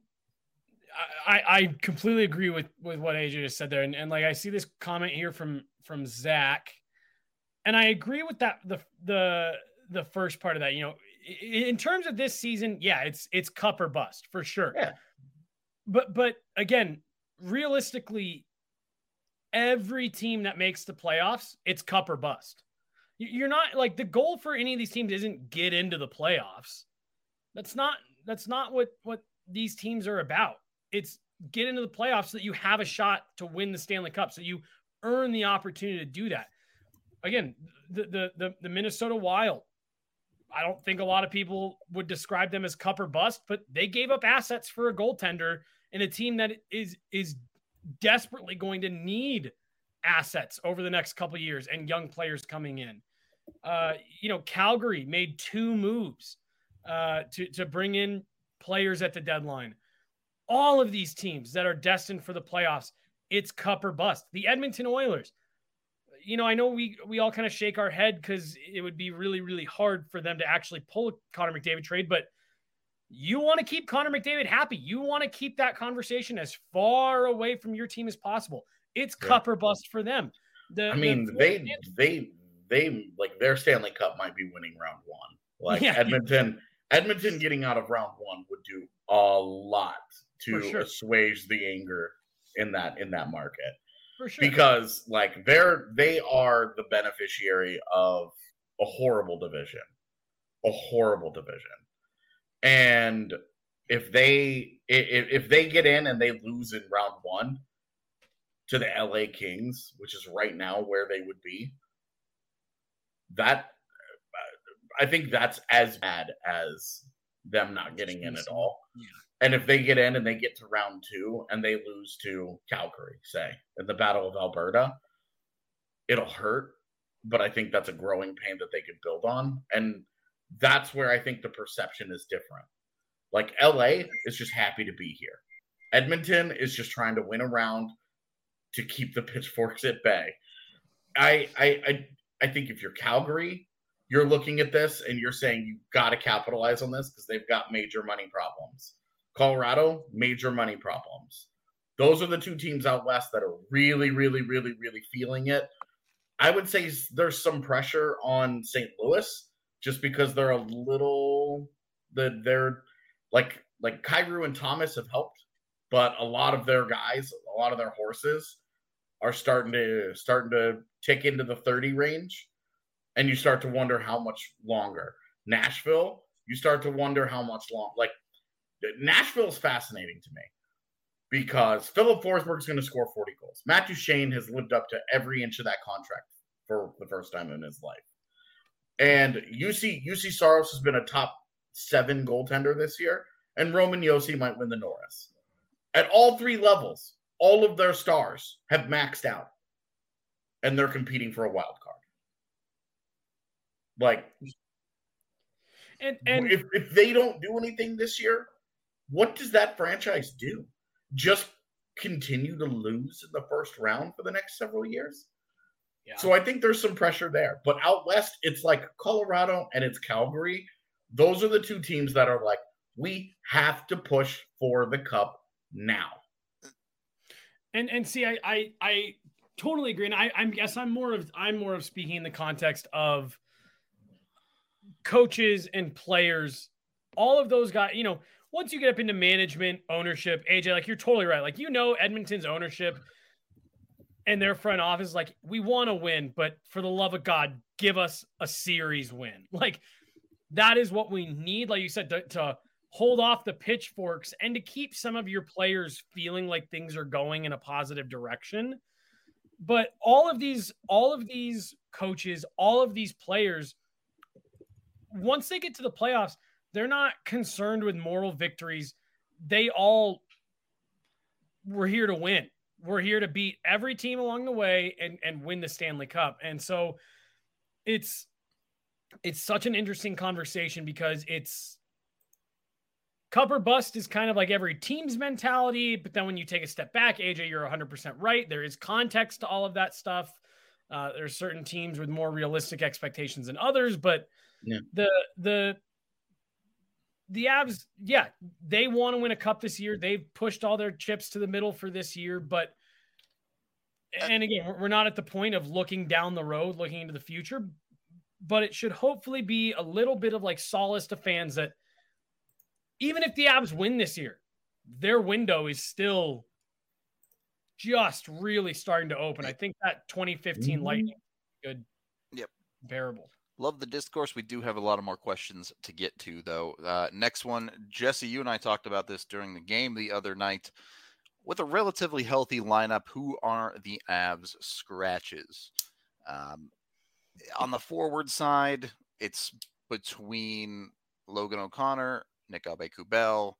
I I completely agree with with what A J just said there, and, and like I see this comment here from from Zach, and I agree with that the the the first part of that. You know, in terms of this season, yeah, it's it's cup or bust for sure. Yeah. But but again, realistically, every team that makes the playoffs, it's cup or bust. You're not like the goal for any of these teams isn't get into the playoffs. That's not that's not what what these teams are about. It's get into the playoffs so that you have a shot to win the Stanley Cup, so you earn the opportunity to do that. Again, the the the, the Minnesota Wild, I don't think a lot of people would describe them as cup or bust, but they gave up assets for a goaltender in a team that is is desperately going to need assets over the next couple of years and young players coming in. Uh, you know, Calgary made two moves uh, to, to bring in players at the deadline. All of these teams that are destined for the playoffs, it's cup or bust. The Edmonton Oilers, you know, I know we, we all kind of shake our head because it would be really, really hard for them to actually pull a Connor McDavid trade, but you want to keep Connor McDavid happy. You want to keep that conversation as far away from your team as possible. It's yeah. cup or bust for them. The, I mean, the they, they, they, like their Stanley Cup might be winning round one. Like yeah. Edmonton, Edmonton getting out of round one would do a lot to sure. assuage the anger in that, in that market. For sure. Because like they're, they are the beneficiary of a horrible division, a horrible division. And if they, if, if they get in and they lose in round one to the L A Kings, which is right now where they would be, that I think that's as bad as them not getting in at all. Yeah. And if they get in and they get to round two and they lose to Calgary, say, in the Battle of Alberta, it'll hurt. But I think that's a growing pain that they could build on. And that's where I think the perception is different. Like L A is just happy to be here. Edmonton is just trying to win a round to keep the pitchforks at bay. I I I, I think if you're Calgary, you're looking at this and you're saying you've got to capitalize on this because they've got major money problems. Colorado, major money problems. Those are the two teams out west that are really, really, really, really feeling it. I would say there's some pressure on Saint Louis just because they're a little the they're like like Kyrou and Thomas have helped, but a lot of their guys, a lot of their horses are starting to starting to tick into the thirty range, and you start to wonder how much longer. Nashville, you start to wonder how much long. Like Nashville is fascinating to me because Philip Forsberg is going to score forty goals. Matt Duchene has lived up to every inch of that contract for the first time in his life. And U C U C Saros has been a top seven goaltender this year, and Roman Josi might win the Norris. At all three levels, all of their stars have maxed out, and they're competing for a wild card. Like, and, and if, if they don't do anything this year, what does that franchise do? Just continue to lose in the first round for the next several years? Yeah. So I think there's some pressure there. But out west, it's like Colorado and it's Calgary. Those are the two teams that are like, we have to push for the cup now. And and see, I I, I totally agree. And I I guess I'm more of I'm more of speaking in the context of coaches and players. All of those guys, you know, once you get up into management, ownership, A J, like you're totally right. Like, you know, Edmonton's ownership and their front office, like, we want to win, but for the love of God, give us a series win. Like, that is what we need. Like you said, to, to hold off the pitchforks and to keep some of your players feeling like things are going in a positive direction. But all of these, all of these coaches, all of these players, once they get to the playoffs, they're not concerned with moral victories. They all were here to win. We're here to beat every team along the way and, and win the Stanley Cup. And so it's, it's such an interesting conversation because it's cup or bust is kind of like every team's mentality. But then when you take a step back, A J, you're one hundred percent right. There is context to all of that stuff. Uh, there's certain teams with more realistic expectations than others, but yeah. the, the, the Avs, yeah, they want to win a cup this year. They've pushed all their chips to the middle for this year, but, and again, we're not at the point of looking down the road, looking into the future, but it should hopefully be a little bit of like solace to fans that even if the Avs win this year, their window is still just really starting to open. I think that twenty fifteen mm-hmm. Lightning good yep. comparable. Love the discourse. We do have a lot of more questions to get to, though. Uh, next one, Jesse, you and I talked about this during the game the other night. With a relatively healthy lineup, who are the Avs scratches? Um, on the forward side, it's between Logan O'Connor, Nick Aube-Kubel,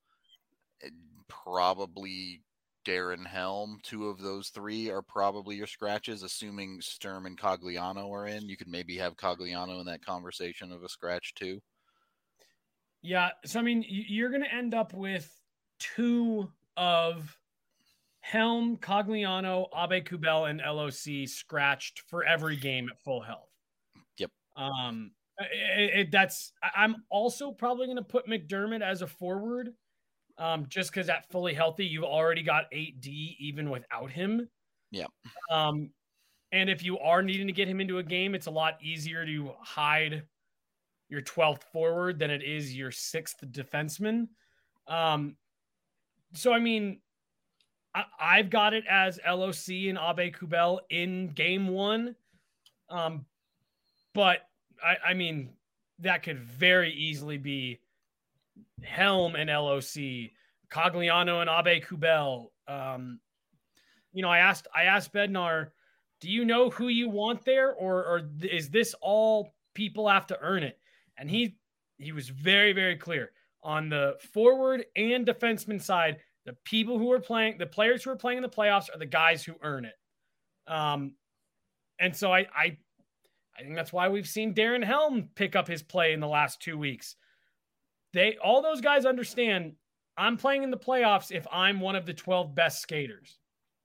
probably Darren Helm. Two of those three are probably your scratches, assuming Sturm and Cogliano are in. You could maybe have Cogliano in that conversation of a scratch too. Yeah. So, I mean, you're going to end up with two of Helm, Cogliano, Aube-Kubel, and L O C scratched for every game at full health. Yep. Um, it, it, that's, I'm also probably going to put McDermott as a forward. Um, just because at fully healthy, you've already got eight D even without him. Yeah. Um, and if you are needing to get him into a game, it's a lot easier to hide your twelfth forward than it is your sixth defenseman. Um, so, I mean, I, I've got it as L O C and Aube-Kubel in game one. Um, but, I, I mean, that could very easily be Helm and L O C, Cogliano and Aube-Kubel. Um, you know, I asked, I asked Bednar, do you know who you want there, or, or is this all people have to earn it? And he, he was very, very clear on the forward and defenseman side. The people who are playing, the players who are playing in the playoffs are the guys who earn it. Um, and so I, I, I think that's why we've seen Darren Helm pick up his play in the last two weeks. They, all those guys understand I'm playing in the playoffs if I'm one of the twelve best skaters.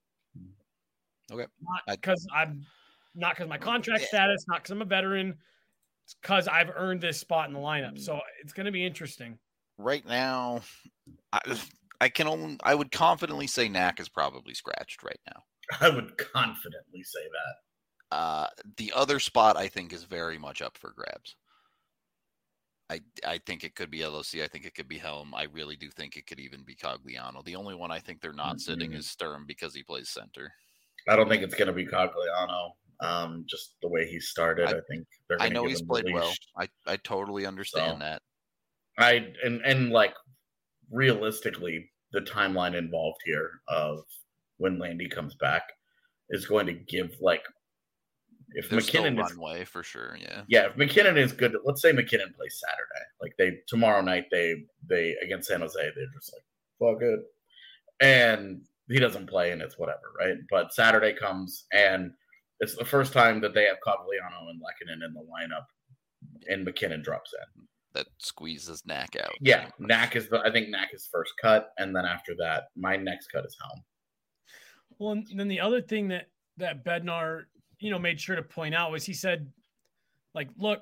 Okay. Not because I'm not because my contract status, not because I'm a veteran. It's because I've earned this spot in the lineup. So it's going to be interesting. Right now, I, I can only, I would confidently say Knack is probably scratched right now. I would confidently say that. Uh, the other spot I think is very much up for grabs. I, I think it could be L O C. I think it could be Helm. I really do think it could even be Cogliano. The only one I think they're not mm-hmm. sitting is Sturm because he plays center. I don't think it's going to be Cogliano. Um, just the way he started, I, I think they're. I know he's played well. I, I totally understand so, that. I and and like realistically, the timeline involved here of when Landy comes back is going to give like. If There's McKinnon still is runway for sure, yeah, yeah. If McKinnon is good, let's say McKinnon plays Saturday. Like they tomorrow night, they they against San Jose, they're just like fuck it, and he doesn't play, and it's whatever, right? But Saturday comes, and it's the first time that they have Cogliano and Lehkonen in the lineup, and McKinnon drops in. That squeezes Knack out. Yeah, Knack is the I think Knack is first cut, and then after that, my next cut is Helm. Well, and then the other thing that that Bednar you know, made sure to point out was he said, like, look,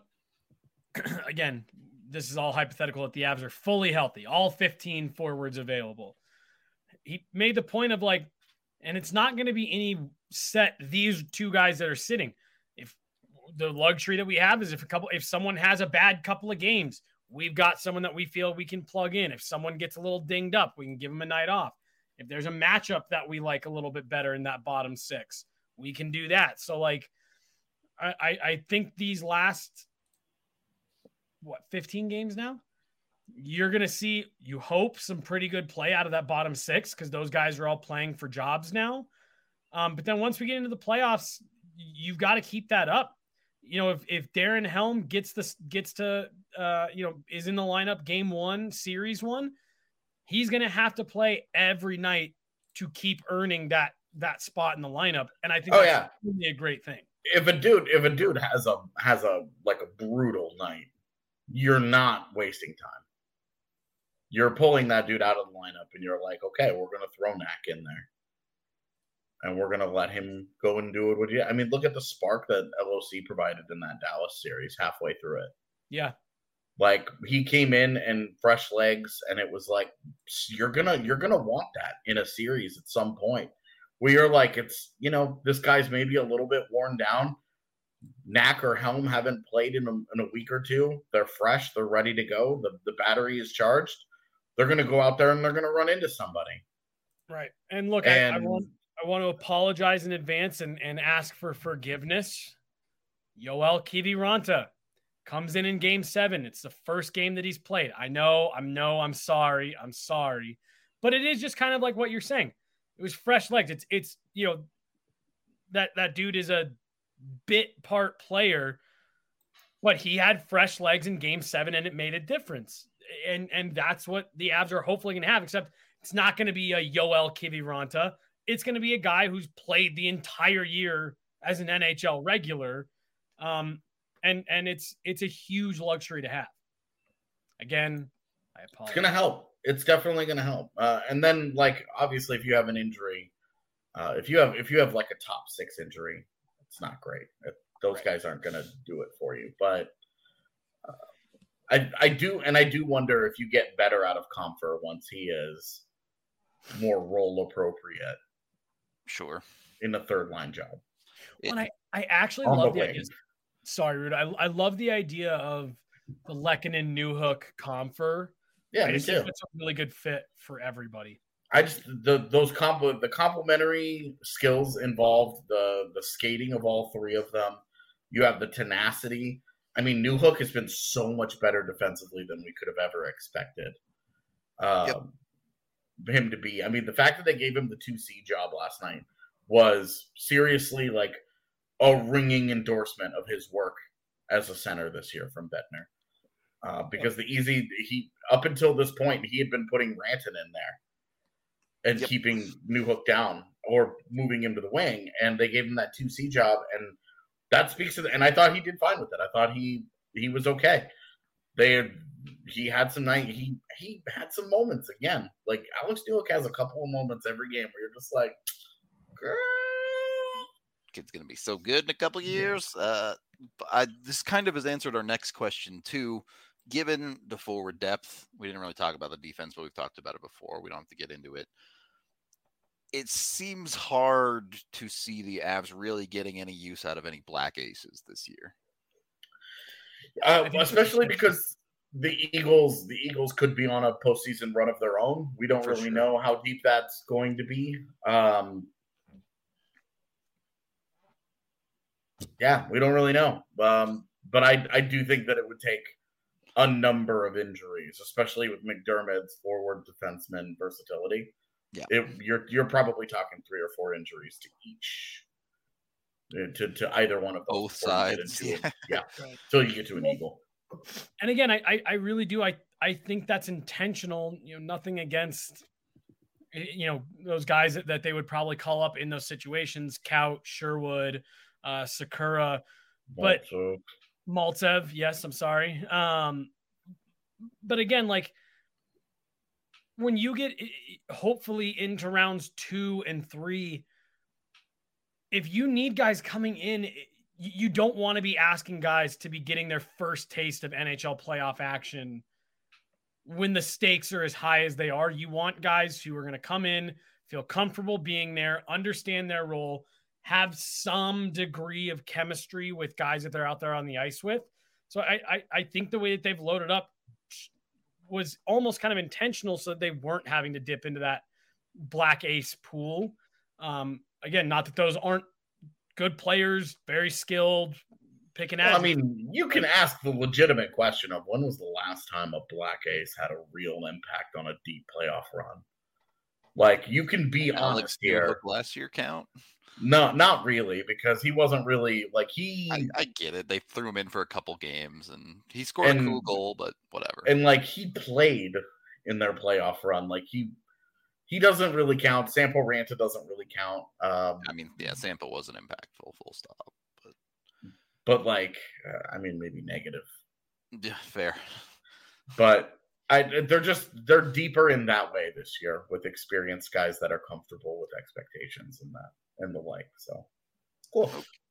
again, this is all hypothetical that the Avs are fully healthy, all fifteen forwards available. He made the point of like, and it's not going to be any set these two guys that are sitting. If the luxury that we have is if a couple, if someone has a bad couple of games, we've got someone that we feel we can plug in. If someone gets a little dinged up, we can give them a night off. If there's a matchup that we like a little bit better in that bottom six, we can do that. So like, I, I think these last, what, fifteen games now, you're going to see, you hope, some pretty good play out of that bottom six because those guys are all playing for jobs now. Um, but then once we get into the playoffs, you've got to keep that up. You know, if, if Darren Helm gets this, gets to, uh, you know, is in the lineup game one, series one, he's going to have to play every night to keep earning that, that spot in the lineup. And I think oh, that's yeah. really a great thing. If a dude, if a dude has a, has a, like a brutal night, you're not wasting time. You're pulling that dude out of the lineup and you're like, okay, we're going to throw Knack in there. And we're going to let him go and do it with you. I mean, look at the spark that L O C provided in that Dallas series halfway through it. Yeah. Like he came in and fresh legs and it was like, you're going to, you're going to want that in a series at some point where you're like, it's, you know, this guy's maybe a little bit worn down. Knack or Helm haven't played in a, in a week or two. They're fresh. They're ready to go. The, the battery is charged. They're going to go out there and they're going to run into somebody. Right. And look, and, I, I, want, I want to apologize in advance and, and ask for forgiveness. Yoel Kiviranta comes in in game seven. It's the first game that he's played. I know, I'm no, I'm sorry. I'm sorry. But it is just kind of like what you're saying. It was fresh legs. It's, it's, you know, that, that dude is a bit part player, but he had fresh legs in game seven and it made a difference. And, and that's what the Avs are hopefully going to have, except it's not going to be a Yoel Kiviranta. It's going to be a guy who's played the entire year as an N H L regular. Um, and, and it's, it's a huge luxury to have. Again, I apologize. It's going to help. It's definitely going to help. Uh, and then like, obviously if you have an injury, uh, if you have, if you have like a top six injury, it's not great. Those right. guys aren't going to do it for you, but uh, I, I do. And I do wonder if you get better out of Compher once he is more role appropriate. Sure. In the third line job. Well, I, I actually love the, the idea. Sorry, Rude. I, I love the idea of the Lehkonen, Newhook, Compher. Yeah, I me just too. think it's a really good fit for everybody. I just the those comp the complementary skills involved, the the skating of all three of them. You have the tenacity. I mean, Newhook has been so much better defensively than we could have ever expected um, yep. him to be. I mean, the fact that they gave him the two C job last night was seriously like a ringing endorsement of his work as a center this year from Bettner. Uh, because the easy he up until this point he had been putting Ranton in there and yep. keeping Newhook down or moving him to the wing, and they gave him that two C job, and that speaks to the, and I thought he did fine with it. I thought he he was okay. They had, he had some night he he had some moments again. Like Alex Newhook has a couple of moments every game where you're just like, girl, kid's gonna be so good in a couple of years. Uh, I, this kind of has answered our next question too. Given the forward depth, we didn't really talk about the defense, but we've talked about it before. We don't have to get into it. It seems hard to see the Avs really getting any use out of any black aces this year. Uh, especially because the Eagles, the Eagles could be on a postseason run of their own. We don't For really sure. know how deep that's going to be. Um, yeah, we don't really know. Um, but I, I do think that it would take a number of injuries, especially with McDermott's forward defenseman versatility. Yeah, it, you're you're probably talking three or four injuries to each, to to either one of those. Both sides. Yeah, a, yeah. Right. Till you get to an Eagle. And again, I, I I really do. I I think that's intentional. You know, nothing against, you know, those guys that, that they would probably call up in those situations. Kaut, Sherwood, uh, Sakura, but. Maltsev. Maltsev, yes, I'm sorry. Um, but again, like when you get hopefully into rounds two and three, if you need guys coming in, you don't want to be asking guys to be getting their first taste of N H L playoff action when the stakes are as high as they are. You want guys who are going to come in, feel comfortable being there, understand their role, have some degree of chemistry with guys that they're out there on the ice with. So I, I, I think the way that they've loaded up was almost kind of intentional so that they weren't having to dip into that black ace pool. Um, again, not that those aren't good players, very skilled, picking well, at. I mean, you can ask the legitimate question of when was the last time a black ace had a real impact on a deep playoff run? Like, you can be Alex honest here. Last year count? No, not really, because he wasn't really like he. I, I get it. They threw him in for a couple games, and he scored and, a cool goal, but whatever. And like he played in their playoff run, like he he doesn't really count. Sampo Ranta doesn't really count. Um, I mean, yeah, Sampo wasn't impactful, full stop. But but like, uh, I mean, maybe negative. Yeah, fair. But I, they're just they're deeper in that way this year with experienced guys that are comfortable with expectations and that. And the like, so cool.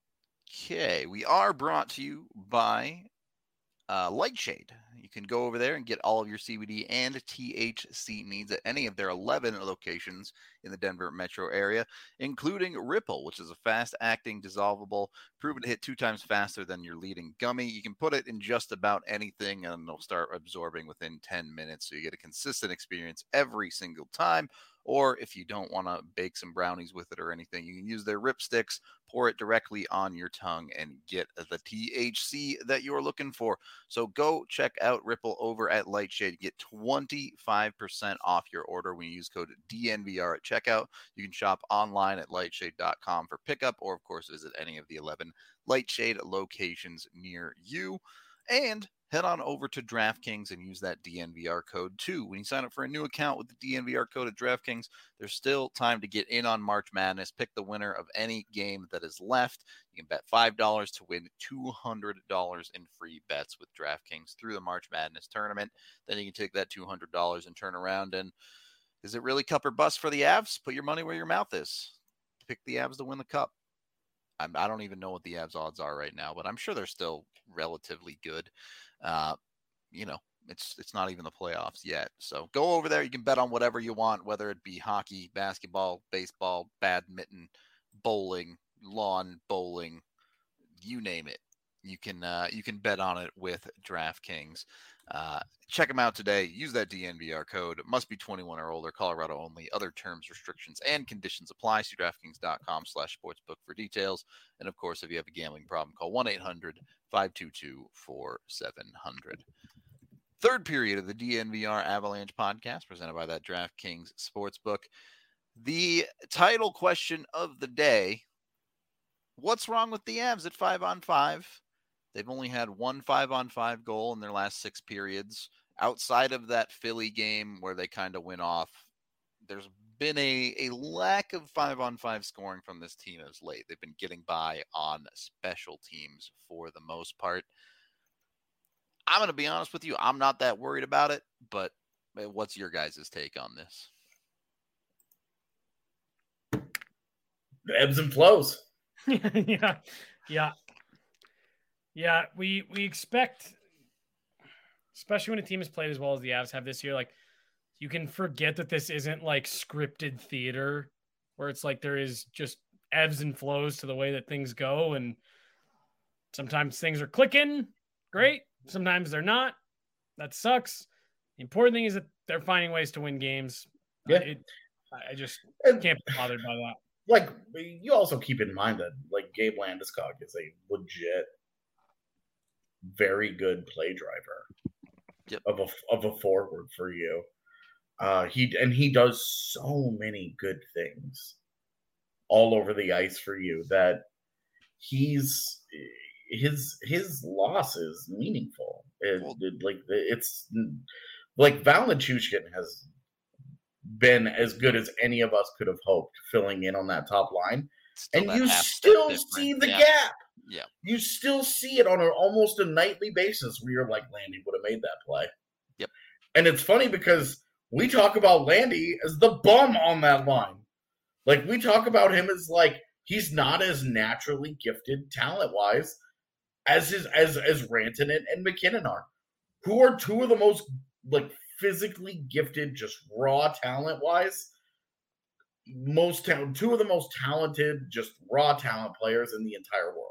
Okay, we are brought to you by uh, Lightshade. You can go over there and get all of your C B D and T H C needs at any of their eleven locations in the Denver metro area, including Ripple, which is a fast-acting dissolvable, proven to hit two times faster than your leading gummy. You can put it in just about anything, and they'll start absorbing within ten minutes, so you get a consistent experience every single time. Or if you don't want to bake some brownies with it or anything, you can use their Rip Sticks, pour it directly on your tongue, and get the T H C that you're looking for. So go check out Ripple over at Lightshade. Get twenty-five percent off your order when you use code D N V R at checkout. You can shop online at lightshade dot com for pickup, or, of course, visit any of the eleven Lightshade locations near you. And head on over to DraftKings and use that D N V R code too. When you sign up for a new account with the D N V R code at DraftKings, there's still time to get in on March Madness. Pick the winner of any game that is left. You can bet five dollars to win two hundred dollars in free bets with DraftKings through the March Madness tournament. Then you can take that two hundred dollars and turn around and, is it really cup or bust for the Avs? Put your money where your mouth is. Pick the Avs to win the cup. I'm, I don't even know what the Avs odds are right now, but I'm sure they're still relatively good. Uh, you know, it's it's not even the playoffs yet. So go over there. You can bet on whatever you want, whether it be hockey, basketball, baseball, badminton, bowling, lawn bowling, you name it. You can uh, you can bet on it with DraftKings. Uh, check them out today. Use that D N V R code. It must be twenty-one or older. Colorado only. Other terms, restrictions, and conditions apply. See DraftKings dot com slash sportsbook for details. And, of course, if you have a gambling problem, call one eight hundred five two two four seven zero zero. Third period of the D N V R Avalanche podcast presented by that DraftKings Sportsbook. The title question of the day, what's wrong with the Avs at five on five? They've only had one five-on-five goal in their last six periods. Outside of that Philly game where they kind of went off, there's been a, a lack of five-on-five scoring from this team as late. They've been getting by on special teams for the most part. I'm going to be honest with you. I'm not that worried about it, but what's your guys' take on this? The ebbs and flows. yeah. Yeah. Yeah, we we expect, especially when a team has played as well as the Avs have this year, like you can forget that this isn't like scripted theater where it's like there is just ebbs and flows to the way that things go. And sometimes things are clicking great. Sometimes they're not. That sucks. The important thing is that they're finding ways to win games. Yeah. It, I just and, can't be bothered by that. Like, you also keep in mind that like Gabe Landeskog is a legit very good play driver yep. of a of a forward for you. Uh, he and he does so many good things all over the ice for you that he's his his loss is meaningful. It, well, it, like it's like Val Nichushkin has been as good as any of us could have hoped filling in on that top line, and you still see the yeah. gap. Yeah, you still see it on an almost a nightly basis where you're like, Landy would have made that play. Yep. And it's funny because we talk about Landy as the bum on that line. Like, we talk about him as, like, he's not as naturally gifted talent-wise as his as as Rantanen and, and McKinnon are, who are two of the most like physically gifted, just raw talent-wise, most ta- two of the most talented, just raw talent players in the entire world.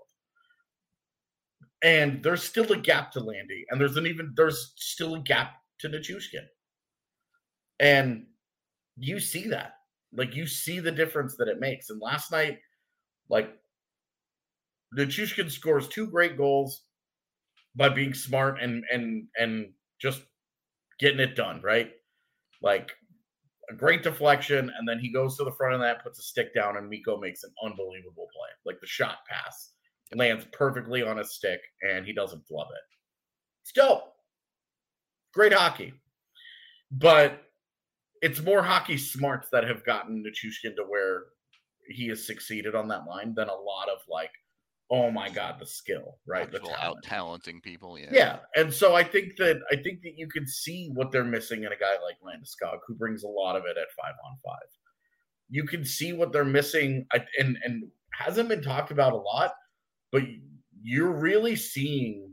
And there's still a gap to Landy, and there's an even there's still a gap to Nichushkin. And you see that. Like, you see the difference that it makes. And last night, like, Nichushkin scores two great goals by being smart and and and just getting it done, right? Like, a great deflection, and then he goes to the front of that, puts a stick down, and Mikko makes an unbelievable play. Like, the shot pass lands perfectly on his stick, and he doesn't flub it. It's dope. Great hockey. But it's more hockey smarts that have gotten Nichushkin to where he has succeeded on that line than a lot of, like, oh my God, the skill, right? Actual the out talenting people, yeah. Yeah. And so I think that I think that you can see what they're missing in a guy like Landeskog, who brings a lot of it at five on five. You can see what they're missing, and and hasn't been talked about a lot, but you're really seeing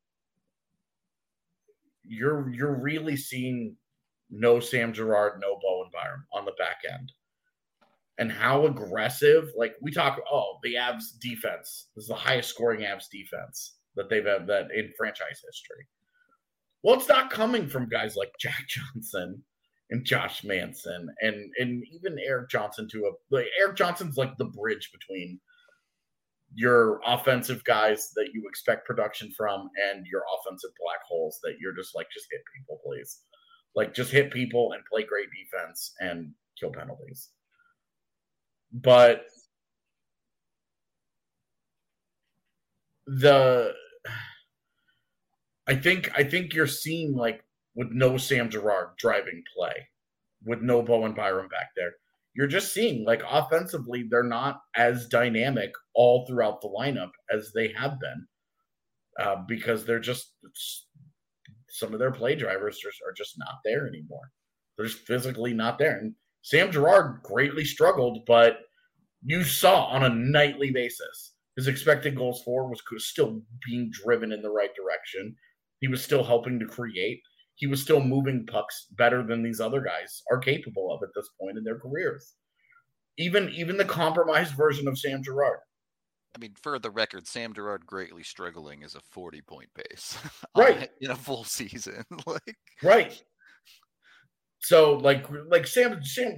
you're you're really seeing no Sam Girard, no Bowen Byram on the back end. And how aggressive, like we talk, oh, the Avs defense. This is the highest scoring Avs defense that they've had that in franchise history. Well, it's not coming from guys like Jack Johnson and Josh Manson and and even Eric Johnson to a like Eric Johnson's like the bridge between your offensive guys that you expect production from and your offensive black holes that you're just like, just hit people, please. Like, just hit people and play great defense and kill penalties. But the I think I think you're seeing, like, with no Sam Girard driving play, with no Bowen Byram back there, you're just seeing, like, offensively, they're not as dynamic all throughout the lineup as they have been, uh, because they're just some of their play drivers are, are just not there anymore. They're just physically not there. And Sam Girard greatly struggled, but you saw on a nightly basis his expected goals for was still being driven in the right direction. He was still helping to create. He was still moving pucks better than these other guys are capable of at this point in their careers. Even, even the compromised version of Sam Girard. I mean, for the record, Sam Girard greatly struggling is a forty-point pace. Right. In a full season. like Right. So, like, like Sam, Sam,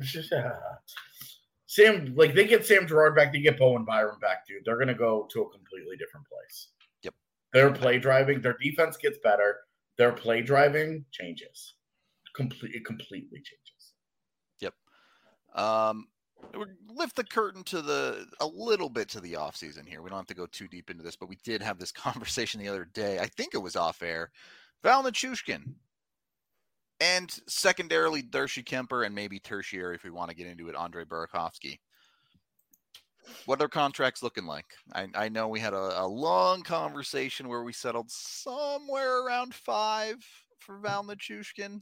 Sam, like, they get Sam Girard back, they get Bowen Byram back, dude. They're going to go to a completely different place. Yep. Their play driving, their defense gets better. Their play driving changes. Complete, it completely changes. Yep. Um, we'll lift the curtain to the a little bit to the offseason here. We don't have to go too deep into this, but we did have this conversation the other day. I think it was off air. Val Nichushkin. And secondarily, Darcy Kemper, and maybe tertiary, if we want to get into it, Andre Burakovsky. What are their contracts looking like? I, I know we had a, a long conversation where we settled somewhere around five for Val Nichushkin.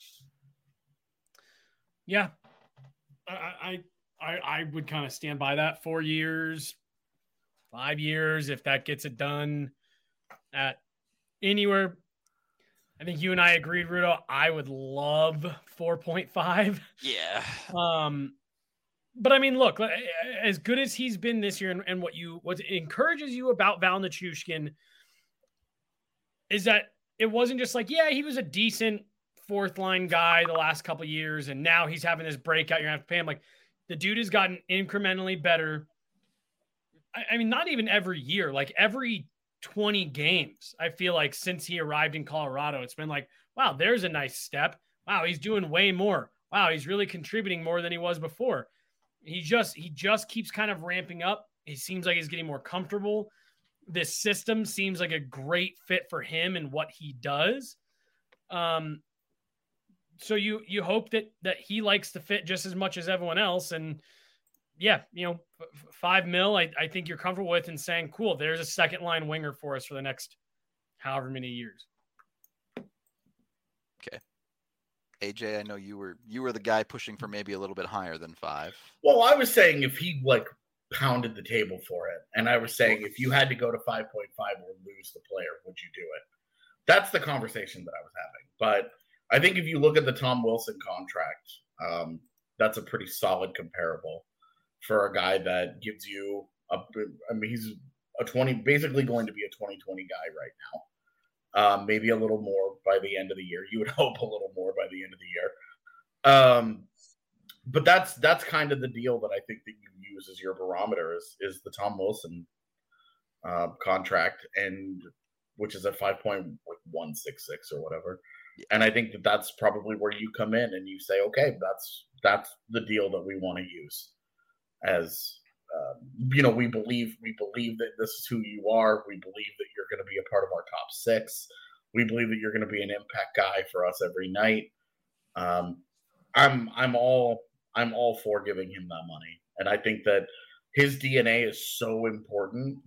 Yeah, I I I, I would kind of stand by that. Four years, five years, if that gets it done at anywhere. I think you and I agreed, Rudo. I would love four point five. Yeah. Um, but I mean, look, as good as he's been this year, and, and what you what encourages you about Val Nichushkin is that it wasn't just like, yeah, he was a decent fourth line guy the last couple of years, and now he's having this breakout. You're gonna have to pay him. Like, the dude has gotten incrementally better. I, I mean, not even every year, like every twenty games, I feel like, since he arrived in Colorado, it's been like, wow, there's a nice step. Wow, he's doing way more. Wow, he's really contributing more than he was before. He just he just keeps kind of ramping up. He seems like he's getting more comfortable. This system seems like a great fit for him and what he does. Um, so you you hope that that he likes to fit just as much as everyone else. And yeah, you know, f- five mil, I, I think you're comfortable with, and saying, cool, there's a second line winger for us for the next however many years. Okay. A J, I know you were you were the guy pushing for maybe a little bit higher than five. Well, I was saying if he like pounded the table for it. And I was saying, if you had to go to five point five or lose the player, would you do it? That's the conversation that I was having. But I think if you look at the Tom Wilson contract, um, that's a pretty solid comparable for a guy that gives you a, I mean, he's a twenty, basically going to be a twenty twenty guy right now. Um, maybe a little more by the end of the year. You would hope a little more by the end of the year. Um, but that's that's kind of the deal that I think that you use as your barometer is is the Tom Wilson uh, contract, and which is at five point one six six or whatever. Yeah. And I think that that's probably where you come in and you say, okay, that's that's the deal that we want to use. As uh, you know, we believe we believe that this is who you are. We believe that you're going to be a part of our top six. We believe that you're going to be an impact guy for us every night. Um, I'm I'm all I'm all for giving him that money, and I think that his D N A is so important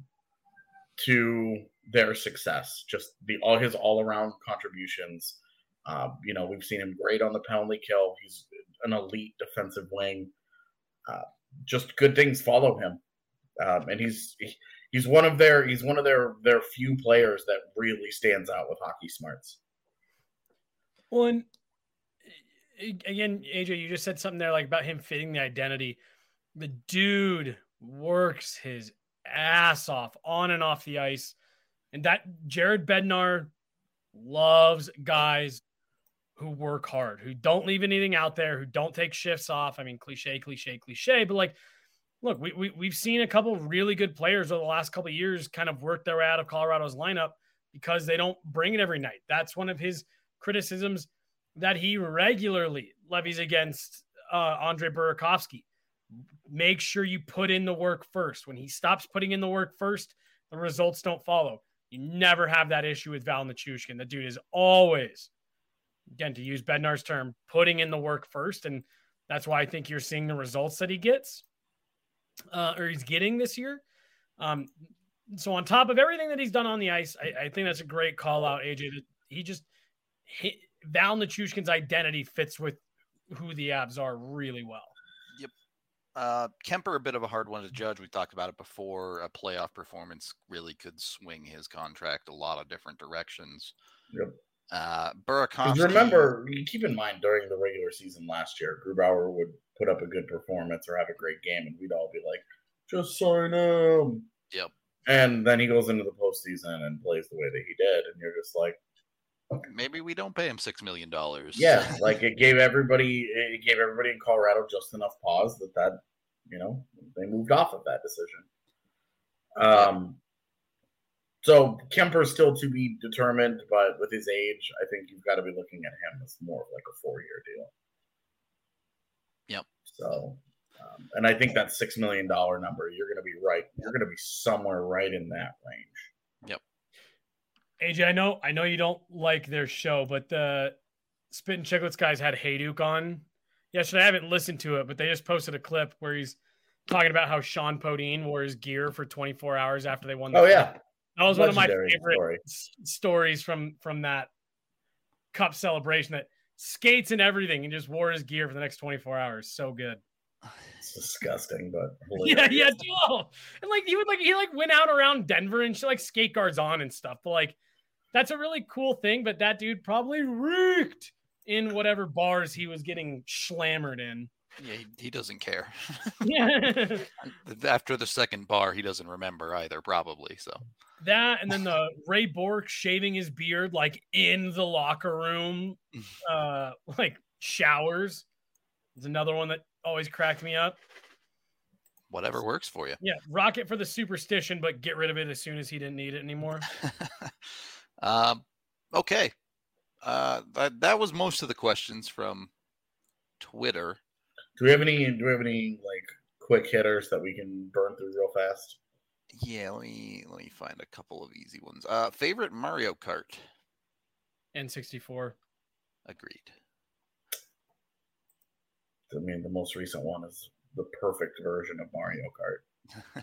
to their success. Just the all his all around contributions. Uh, you know, we've seen him great on the penalty kill. He's an elite defensive wing. Uh, just good things follow him, um, and he's he's one of their he's one of their their few players that really stands out with hockey smarts. Well, and again, A J, you just said something there like about him fitting the identity. The dude works his ass off on and off the ice, and that Jared Bednar loves guys who work hard, who don't leave anything out there, who don't take shifts off. I mean, cliche, cliche, cliche, but like, look, we, we, we've seen a couple of really good players over the last couple of years kind of work their way out of Colorado's lineup because they don't bring it every night. That's one of his criticisms that he regularly levies against uh, Andre Burakovsky. Make sure you put in the work first. When he stops putting in the work first, the results don't follow. You never have that issue with Val Nichushkin. The dude is always, again, to use Bednar's term, putting in the work first. And that's why I think you're seeing the results that he gets uh, or he's getting this year. Um, so on top of everything that he's done on the ice, I, I think that's a great call out, A J. That he just hit, Val Nichushkin's identity fits with who the Avs are really well. Yep. Uh, Kemper, a bit of a hard one to judge. We talked about it before. A playoff performance really could swing his contract a lot of different directions. Yep. Uh, Burakovsky. Remember, keep in mind during the regular season last year, Grubauer would put up a good performance or have a great game, and we'd all be like, "Just sign him." Yep. And then he goes into the postseason and plays the way that he did, and you're just like, okay. Maybe we don't pay him six million dollars. Yeah, like it gave everybody, it gave everybody in Colorado just enough pause that that you know they moved off of that decision. Um. So Kemper's still to be determined, but with his age, I think you've got to be looking at him as more of like a four-year deal. Yep. So, um, and I think that six million dollar number, you're going to be right. You're going to be somewhere right in that range. Yep. A J, I know, I know you don't like their show, but the Spit and Chicklets guys had Hayduk on yesterday. I haven't listened to it, but they just posted a clip where he's talking about how Sean Podine wore his gear for twenty-four hours after they won the Oh, yeah. That was Legendary one of my favorite story. s- stories from, from that cup celebration, that skates and everything and just wore his gear for the next twenty-four hours. So good. It's disgusting, but hilarious. yeah, yeah, dude. And like he would like he like went out around Denver and shit, like skate guards on and stuff. But like that's a really cool thing. But that dude probably reeked in whatever bars he was getting slammered in. Yeah, he, he doesn't care. Yeah. After the second bar, he doesn't remember either, probably. So that, and then the Ray Bourque shaving his beard like in the locker room, uh, like showers. Is another one that always cracked me up. Whatever works for you. Yeah, rock it for the superstition, but get rid of it as soon as he didn't need it anymore. um, okay. Uh, that that was most of the questions from Twitter. Do we have any? Do we have any like quick hitters that we can burn through real fast? Yeah, let me let me find a couple of easy ones. Uh, favorite Mario Kart? N sixty-four. Agreed. I mean, the most recent one is the perfect version of Mario Kart.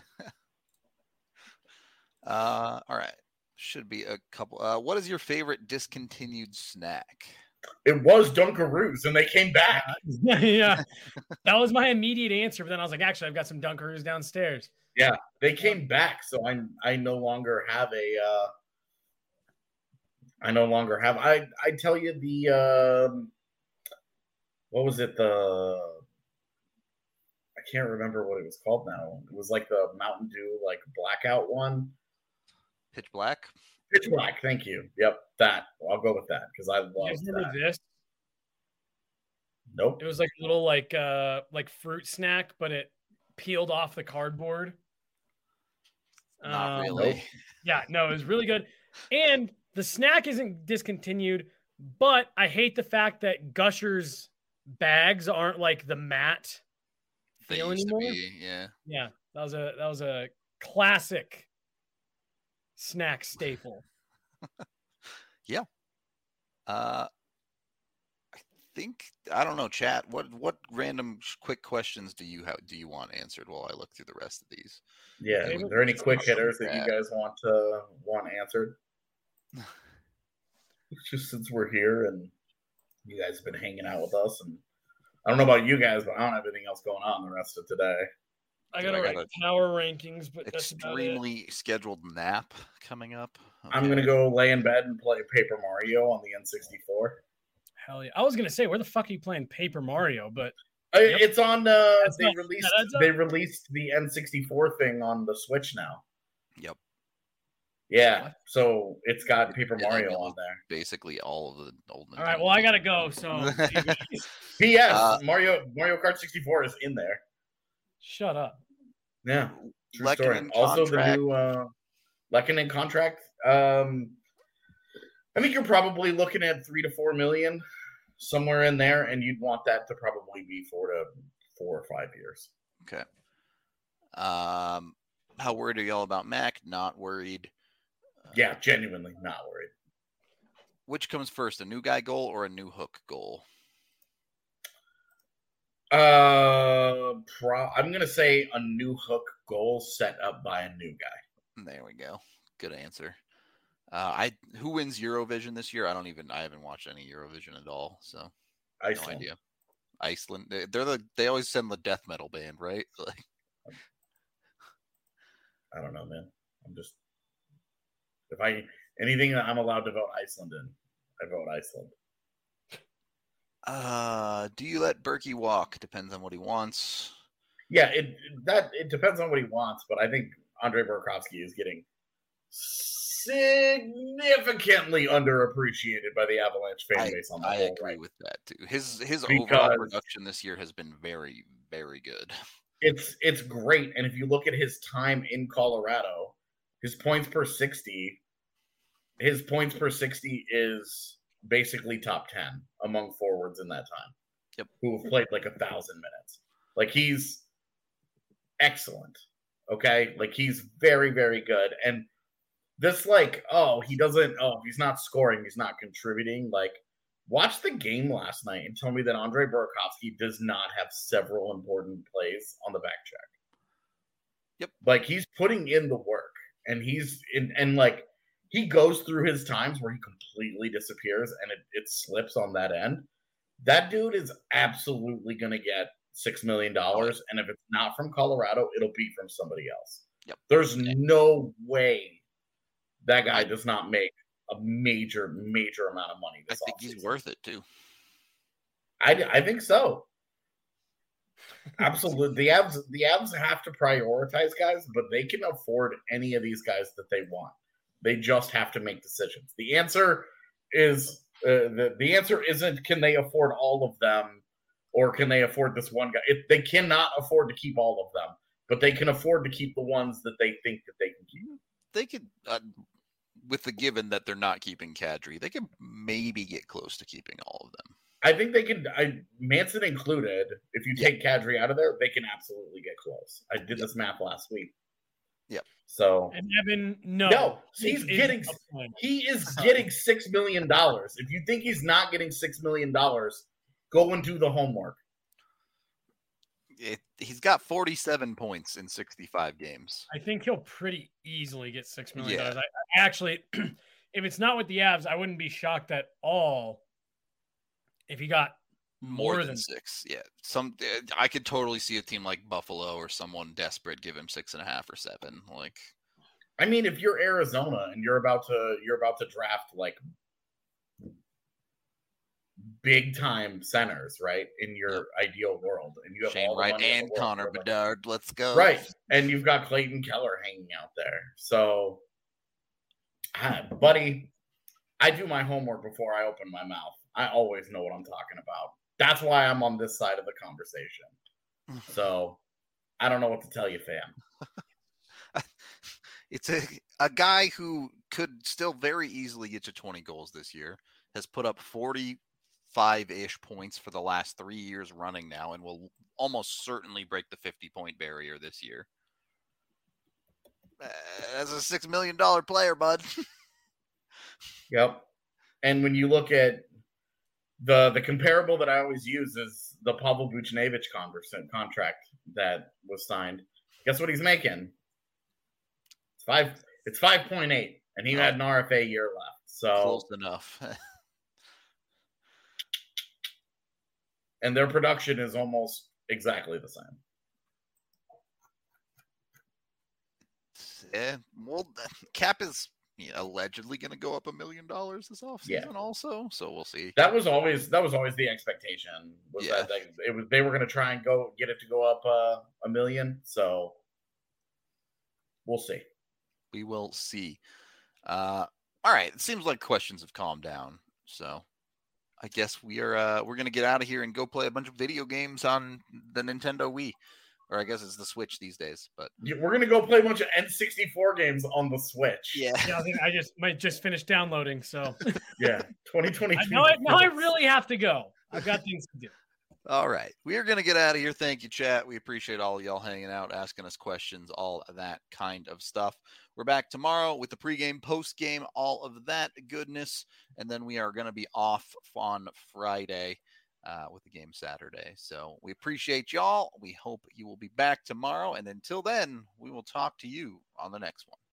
uh, all right. Should be a couple. Uh, what is your favorite discontinued snack? It was Dunkaroos, and they came back. Yeah, that was my immediate answer. But then I was like, actually, I've got some Dunkaroos downstairs. Yeah, they came back, so I I no longer have a. Uh, I no longer have. I I tell you the. Um, what was it? The. I can't remember what it was called now. It was like the Mountain Dew, like blackout one. Pitch Black. Pitch Black. Thank you. Yep, that. I'll go with that because I love that. This? Nope. It was like a little like uh like fruit snack, but it peeled off the cardboard. Not um, really. Nope. Yeah, no, it was really good. And the snack isn't discontinued, but I hate the fact that Gushers bags aren't like the matte They feel used anymore. to be, yeah. Yeah, that was a that was a classic snack staple. Yeah. Uh, I think I don't know, chat. What what random quick questions do you have? Do you want answered while I look through the rest of these? Yeah. Is there any quick hitters that you guys want to want answered? Just since we're here and you guys have been hanging out with us, and I don't know about you guys, but I don't have anything else going on the rest of today. I got to write power rankings, but that's extremely scheduled nap coming up. Okay. I'm gonna go lay in bed and play Paper Mario on the N sixty-four. Hell yeah! I was gonna say, where the fuck are you playing Paper Mario? But uh, yep. It's on. Uh, they not, released. They released the N sixty-four thing on the Switch now. Yep. Yeah, what? So it's got Paper yeah, Mario on there. Basically, all of the old. All right, well, I gotta go. So, P S Uh, Mario Mario Kart sixty-four is in there. Shut up. Yeah, true story. Also, the new uh, Lekkonen contract. Um, I think you're probably looking at three to four million, somewhere in there, and you'd want that to probably be four to four or five years. Okay. Um, how worried are y'all about Mac? Not worried. Yeah, genuinely not worried. Which comes first, a new guy goal or a new hook goal? Uh, pro- I'm gonna say a new hook goal set up by a new guy. There we go. Good answer. Uh, I who wins Eurovision this year? I don't even. I haven't watched any Eurovision at all, so Iceland. No idea. Iceland. They're the. They always send the death metal band, right? Like, I don't know, man. I'm just. If I anything that I'm allowed to vote Iceland in, I vote Iceland. Uh, do you let Berkey walk? Depends on what he wants. Yeah, it that it depends on what he wants, but I think Andre Burakovsky is getting significantly underappreciated by the Avalanche fan base. I, on the I whole, agree right? with that too. His his because overall production this year has been very very good. It's it's great, and if you look at his time in Colorado, his points per sixty, his points per sixty is basically top ten among forwards in that time. Yep. Who have played like a thousand minutes. Like he's excellent. Okay. Like he's very, very good. And this like, oh, he doesn't, oh, if he's not scoring, he's not contributing. Like watch the game last night and tell me that Andre Burakovsky does not have several important plays on the back check. Yep. Like he's putting in the work and he's in, and like, he goes through his times where he completely disappears and it, it slips on that end. That dude is absolutely going to get six million dollars. And if it's not from Colorado, it'll be from somebody else. Yep. There's no way that guy does not make a major, major amount of money this I think offseason. He's worth it too. I, I think so. Absolutely. The Avs, the Avs have to prioritize guys, but they can afford any of these guys that they want. They just have to make decisions. The answer is uh, the the answer isn't can they afford all of them or can they afford this one guy? It, they cannot afford to keep all of them, but they can afford to keep the ones that they think that they can keep. They could, uh, with the given that they're not keeping Kadri, they could maybe get close to keeping all of them. I think they could. I, Manson included. If you take yeah. Kadri out of there, they can absolutely get close. I did yep. this math last week. Yep. So and Evan, no, no, he's getting he is getting six million dollars. If you think he's not getting six million dollars, go and do the homework. It, he's got forty-seven points in sixty-five games. I think he'll pretty easily get six million dollars. Yeah. I, I actually, if it's not with the Avs, I wouldn't be shocked at all if he got more, more than, than six. Yeah. Some, I could totally see a team like Buffalo or someone desperate give him six and a half or seven. Like, I mean, if you're Arizona and you're about to you're about to draft like big time centers, right? In your yep. ideal world, and you have Shane all the Wright money and Connor Bedard. Like, let's go. Right, and you've got Clayton Keller hanging out there. So, ah, buddy, I do my homework before I open my mouth. I always know what I'm talking about. That's why I'm on this side of the conversation. So, I don't know what to tell you, fam. It's a a guy who could still very easily get to twenty goals this year. Has put up forty-five-ish points for the last three years running now, and will almost certainly break the fifty-point barrier this year. Uh, as a six million dollars player, bud. Yep. And when you look at the the comparable that I always use is the Pavel Buchnevich contract that was signed. Guess what he's making? It's five. It's five point eight, and he oh. had an R F A year left. So close enough. And their production is almost exactly the same. Yeah, well, Cap is you know, allegedly going to go up a million dollars this offseason, yeah. also. So we'll see. That was always that was always the expectation. Was yeah. that they, it was they were going to try and go get it to go up uh, a million. So we'll see. We will see. Uh, all right. It seems like questions have calmed down. So I guess we are uh, we're gonna get out of here and go play a bunch of video games on the Nintendo Wii, or I guess it's the Switch these days. But yeah, we're gonna go play a bunch of N sixty-four games on the Switch. Yeah, yeah I think I just might just finish downloading. So yeah, twenty twenty-two. Now I, now I really have to go. I've got things to do. All right, we are gonna get out of here. Thank you, chat. We appreciate all of y'all hanging out, asking us questions, all of that kind of stuff. We're back tomorrow with the pregame, postgame, all of that goodness. And then we are going to be off on Friday uh, with the game Saturday. So we appreciate y'all. We hope you will be back tomorrow. And until then, we will talk to you on the next one.